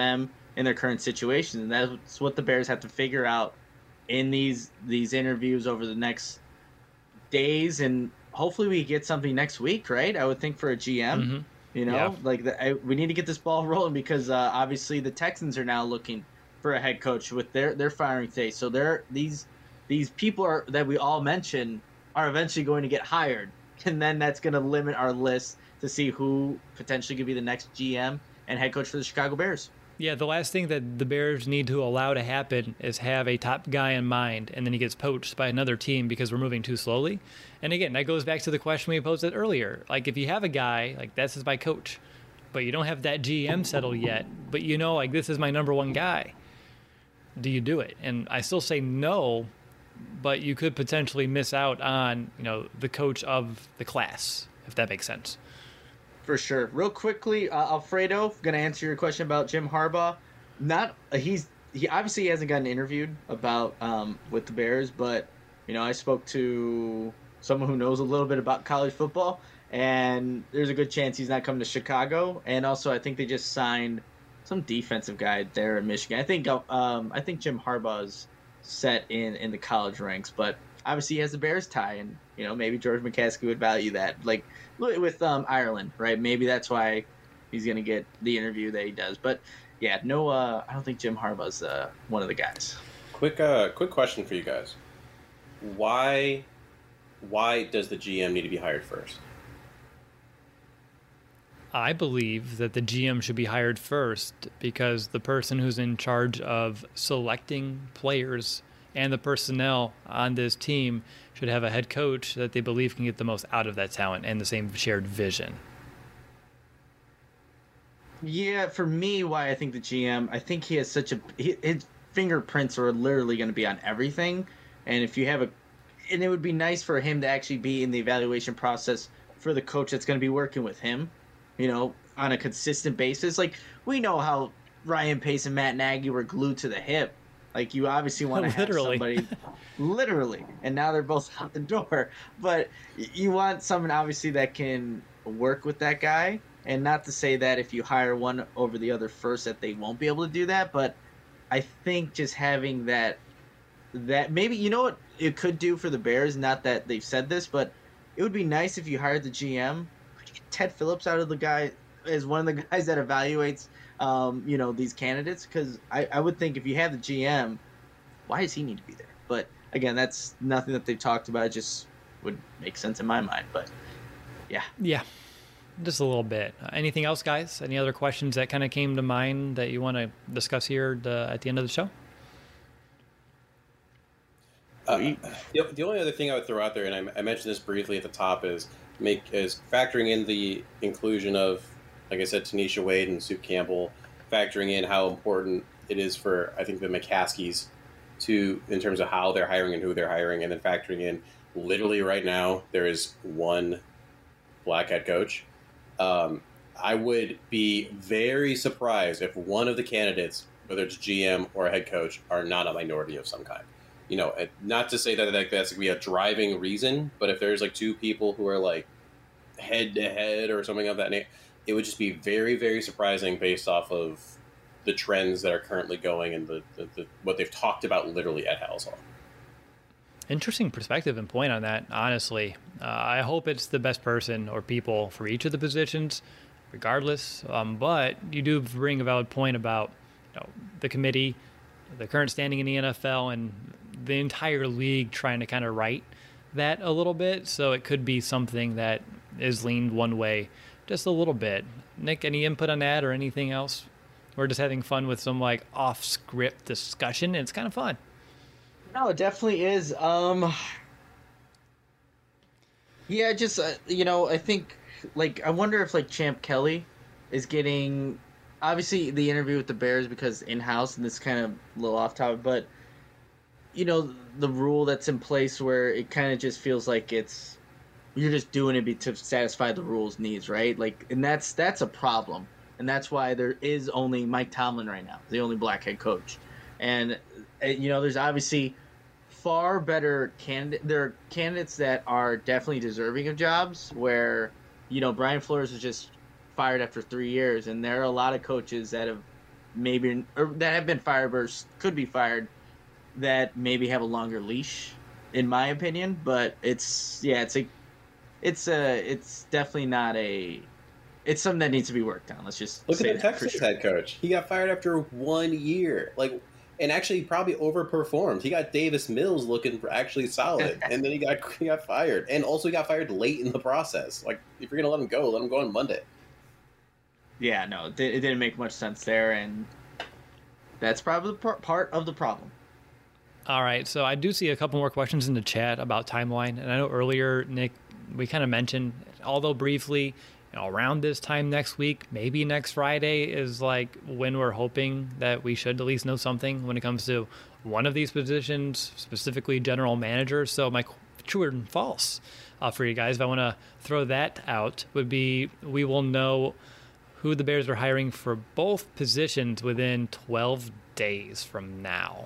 [SPEAKER 1] in their current situation, and that's what the Bears have to figure out in these these interviews over the next days, and hopefully we get something next week, right? I would think for a G M,
[SPEAKER 2] Mm-hmm.
[SPEAKER 1] you know,
[SPEAKER 2] Yeah.
[SPEAKER 1] like the, I, we need to get this ball rolling because uh, obviously the Texans are now looking for a head coach with their their firing phase. So they're these these people are that we all mentioned are eventually going to get hired, and then that's going to limit our list to see who potentially could be the next G M and head coach for the Chicago Bears.
[SPEAKER 2] Yeah, the last thing that the Bears need to allow to happen is have a top guy in mind, and then he gets poached by another team because we're moving too slowly. And again, that goes back to the question we posed earlier. Like, if you have a guy, like, this is my coach, but you don't have that G M settled yet, but you know, like, this is my number one guy, do you do it? And I still say no, but you could potentially miss out on, you know, the coach of the class, if that makes sense.
[SPEAKER 1] For sure. Real quickly, uh, Alfredo, going to answer your question about Jim Harbaugh. Not uh, he's he obviously hasn't gotten interviewed about um, with the Bears, but you know I spoke to someone who knows a little bit about college football, and there's a good chance he's not coming to Chicago. And also, I think they just signed some defensive guy there in Michigan. I think um, I think Jim Harbaugh's set in in the college ranks, but obviously he has the Bears tie, and you know maybe George McCaskey would value that. Like with um, Ireland, right? Maybe that's why he's going to get the interview that he does. But yeah, no, uh, I don't think Jim Harbaugh's uh, one of the guys.
[SPEAKER 3] Quick, uh, quick question for you guys: Why, why does the G M need to be hired first?
[SPEAKER 2] I believe that the G M should be hired first because the person who's in charge of selecting players and the personnel on this team should have a head coach that they believe can get the most out of that talent and the same shared vision.
[SPEAKER 1] Yeah, for me, why I think the G M, I think he has such a he, his fingerprints are literally going to be on everything, and if you have a, and it would be nice for him to actually be in the evaluation process for the coach that's going to be working with him, you know, on a consistent basis. Like we know how Ryan Pace and Matt Nagy were glued to the hip. Like you obviously want to have
[SPEAKER 2] Literally.
[SPEAKER 1] somebody, literally, and now they're both out the door. But you want someone obviously that can work with that guy, and not to say that if you hire one over the other first that they won't be able to do that. But I think just having that, that maybe you know what it could do for the Bears. Not that they've said this, but it would be nice if you hired the G M, get Ted Phillips out of the guy as one of the guys that evaluates. Um, you know, these candidates, because I, I would think if you have the G M, why does he need to be there? But again, that's nothing that they've talked about. It just would make sense in my mind. But yeah.
[SPEAKER 2] Yeah, just a little bit. Uh, anything else, guys? Any other questions that kind of came to mind that you want to discuss here the, at the end of the show?
[SPEAKER 3] Uh, the, the only other thing I would throw out there, and I, I mentioned this briefly at the top, is make is factoring in the inclusion of, like I said, Tanisha Wade and Sue Campbell, factoring in how important it is for, I think, the McCaskies to, in terms of how they're hiring and who they're hiring, and then factoring in, literally right now, there is one black head coach. Um, I would be very surprised if one of the candidates, whether it's G M or a head coach, are not a minority of some kind. You know, not to say that like, that's going to be a driving reason, but if there's like two people who are like head to head or something of that nature, it would just be very, very surprising based off of the trends that are currently going and the, the, the what they've talked about literally at Halas Hall.
[SPEAKER 2] Interesting perspective and point on that, honestly. Uh, I hope it's the best person or people for each of the positions, regardless. Um, but you do bring a valid point about you know, the committee, the current standing in the N F L, and the entire league trying to kind of right that a little bit. So it could be something that is leaned one way just a little bit. Nick, any input on that or anything else? We're just having fun with some like off-script discussion. It's kind of fun.
[SPEAKER 1] No, it definitely is. Um, yeah, just uh, you know, I think like I wonder if like Champ Kelly is getting obviously the interview with the Bears because in-house, and this kind of a little off topic, but you know the rule that's in place where it kind of just feels like it's you're just doing it to satisfy the rules needs, right? Like, and that's that's a problem, and that's why there is only Mike Tomlin right now, the only black head coach, and you know there's obviously far better candidate. There are candidates that are definitely deserving of jobs. Where you know Brian Flores was just fired after three years, and there are a lot of coaches that have maybe or that have been fired or could be fired that maybe have a longer leash, in my opinion. But it's yeah, it's a it's a it's definitely not a it's something that needs to be worked on. Let's just
[SPEAKER 3] look
[SPEAKER 1] say
[SPEAKER 3] at the
[SPEAKER 1] that for
[SPEAKER 3] Texans
[SPEAKER 1] sure.
[SPEAKER 3] head coach. He got fired after one year, like, and actually probably overperformed. He got Davis Mills looking for actually solid, and then he got he got fired, and also he got fired late in the process. Like, if you're gonna let him go, let him go on Monday.
[SPEAKER 1] Yeah, no, it it didn't make much sense there, and that's probably par- part of the problem.
[SPEAKER 2] All right, so I do see a couple more questions in the chat about timeline, and I know earlier, Nick, we kind of mentioned, although briefly, you know, around this time next week, maybe next Friday is like when we're hoping that we should at least know something when it comes to one of these positions, specifically general manager. So my true and false uh, for you guys, if I want to throw that out, would be we will know who the Bears are hiring for both positions within twelve days from now.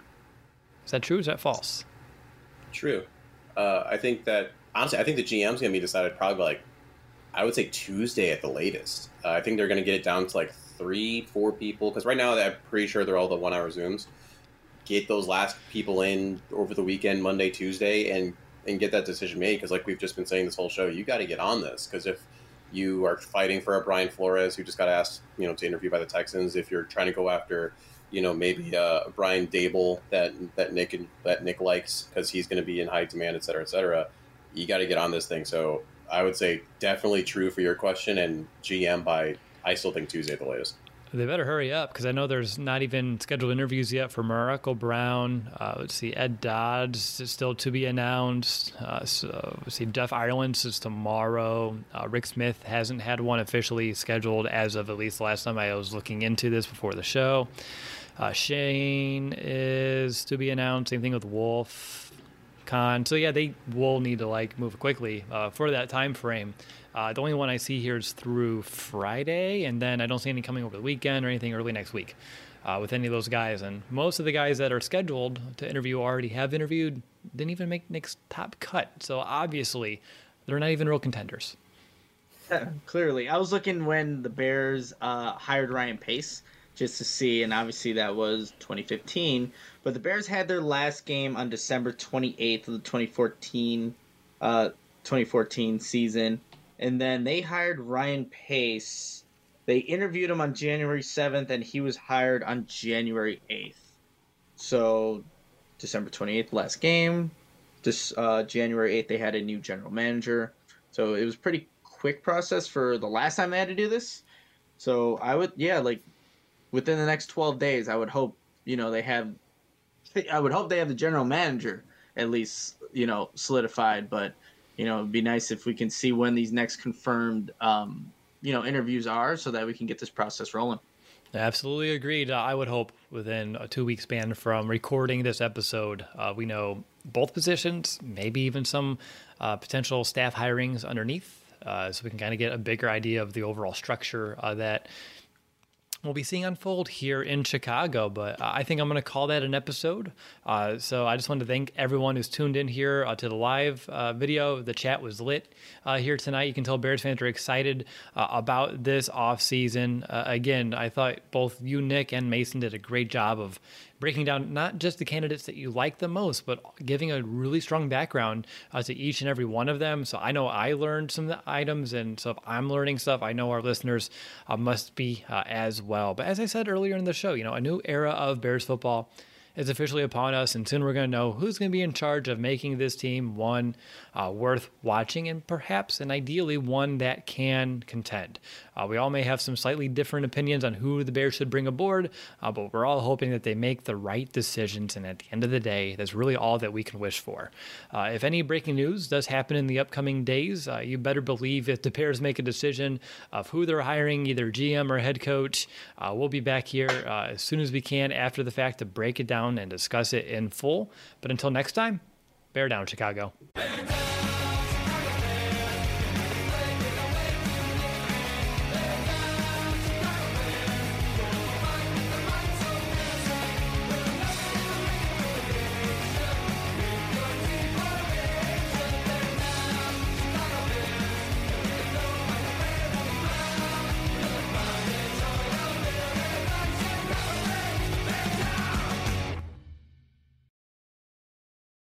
[SPEAKER 2] Is that true or is that false?
[SPEAKER 3] True. Uh, I think that, honestly, I think the G M's going to be decided probably by, like, I would say Tuesday at the latest. Uh, I think they're going to get it down to like three, four people. Because right now, I'm pretty sure they're all the one-hour Zooms. Get those last people in over the weekend, Monday, Tuesday, and, and get that decision made. Because like we've just been saying this whole show, you got to get on this. Because if you are fighting for a Brian Flores, who just got asked, you know, to interview by the Texans, if you're trying to go after, you know, maybe uh, Brian Dable that that Nick and that Nick likes because he's going to be in high demand, et cetera, et cetera, you got to get on this thing. So I would say definitely true for your question, and G M by, I still think Tuesday at the latest.
[SPEAKER 2] They better hurry up because I know there's not even scheduled interviews yet for Morocco Brown. Uh, let's see, Ed Dodds is still to be announced. Uh, so let's see, Jeff Ireland is tomorrow. Uh, Rick Smith hasn't had one officially scheduled as of at least the last time I was looking into this before the show. Uh, Shane is to be announced. Same thing with Wolf Khan. So yeah, they will need to like move quickly uh, for that time frame. Uh, the only one I see here is through Friday, and then I don't see any coming over the weekend or anything early next week uh, with any of those guys. And most of the guys that are scheduled to interview already have interviewed, didn't even make Nick's top cut. So obviously, they're not even real contenders.
[SPEAKER 1] Yeah, clearly. I was looking when the Bears uh, hired Ryan Pace just to see, and obviously that was twenty fifteen. But the Bears had their last game on December twenty-eighth of the twenty fourteen, uh, twenty fourteen season. And then they hired Ryan Pace. They interviewed him on January seventh, and he was hired on January eighth. So, December twenty-eighth, last game. This uh, January eighth, they had a new general manager. So, it was a pretty quick process for the last time they had to do this. So, I would, yeah, like, within the next twelve days, I would hope, you know, they have, I would hope they have the general manager at least, you know, solidified, but you know, it'd be nice if we can see when these next confirmed, um, you know, interviews are so that we can get this process rolling.
[SPEAKER 2] Absolutely agreed. Uh, I would hope within a two-week span from recording this episode, uh, we know both positions, maybe even some uh, potential staff hirings underneath, uh, so we can kind of get a bigger idea of the overall structure uh, that we'll be seeing unfold here in Chicago. But uh, I think I'm going to call that an episode. Uh, so I just want to thank everyone who's tuned in here uh, to the live uh, video. The chat was lit uh, here tonight. You can tell Bears fans are excited uh, about this offseason. Uh, again, I thought both you, Nick, and Mason did a great job of breaking down not just the candidates that you like the most, but giving a really strong background uh, to each and every one of them. So I know I learned some of the items, and so if I'm learning stuff, I know our listeners uh, must be uh, as well. But as I said earlier in the show, you know, a new era of Bears football is officially upon us, and soon we're going to know who's going to be in charge of making this team one uh, worth watching, and perhaps and ideally one that can contend. Uh, we all may have some slightly different opinions on who the Bears should bring aboard, uh, but we're all hoping that they make the right decisions, and at the end of the day, that's really all that we can wish for. Uh, if any breaking news does happen in the upcoming days, uh, you better believe if the Bears make a decision of who they're hiring, either G M or head coach, uh, we'll be back here uh, as soon as we can after the fact to break it down and discuss it in full. But until next time, bear down, Chicago.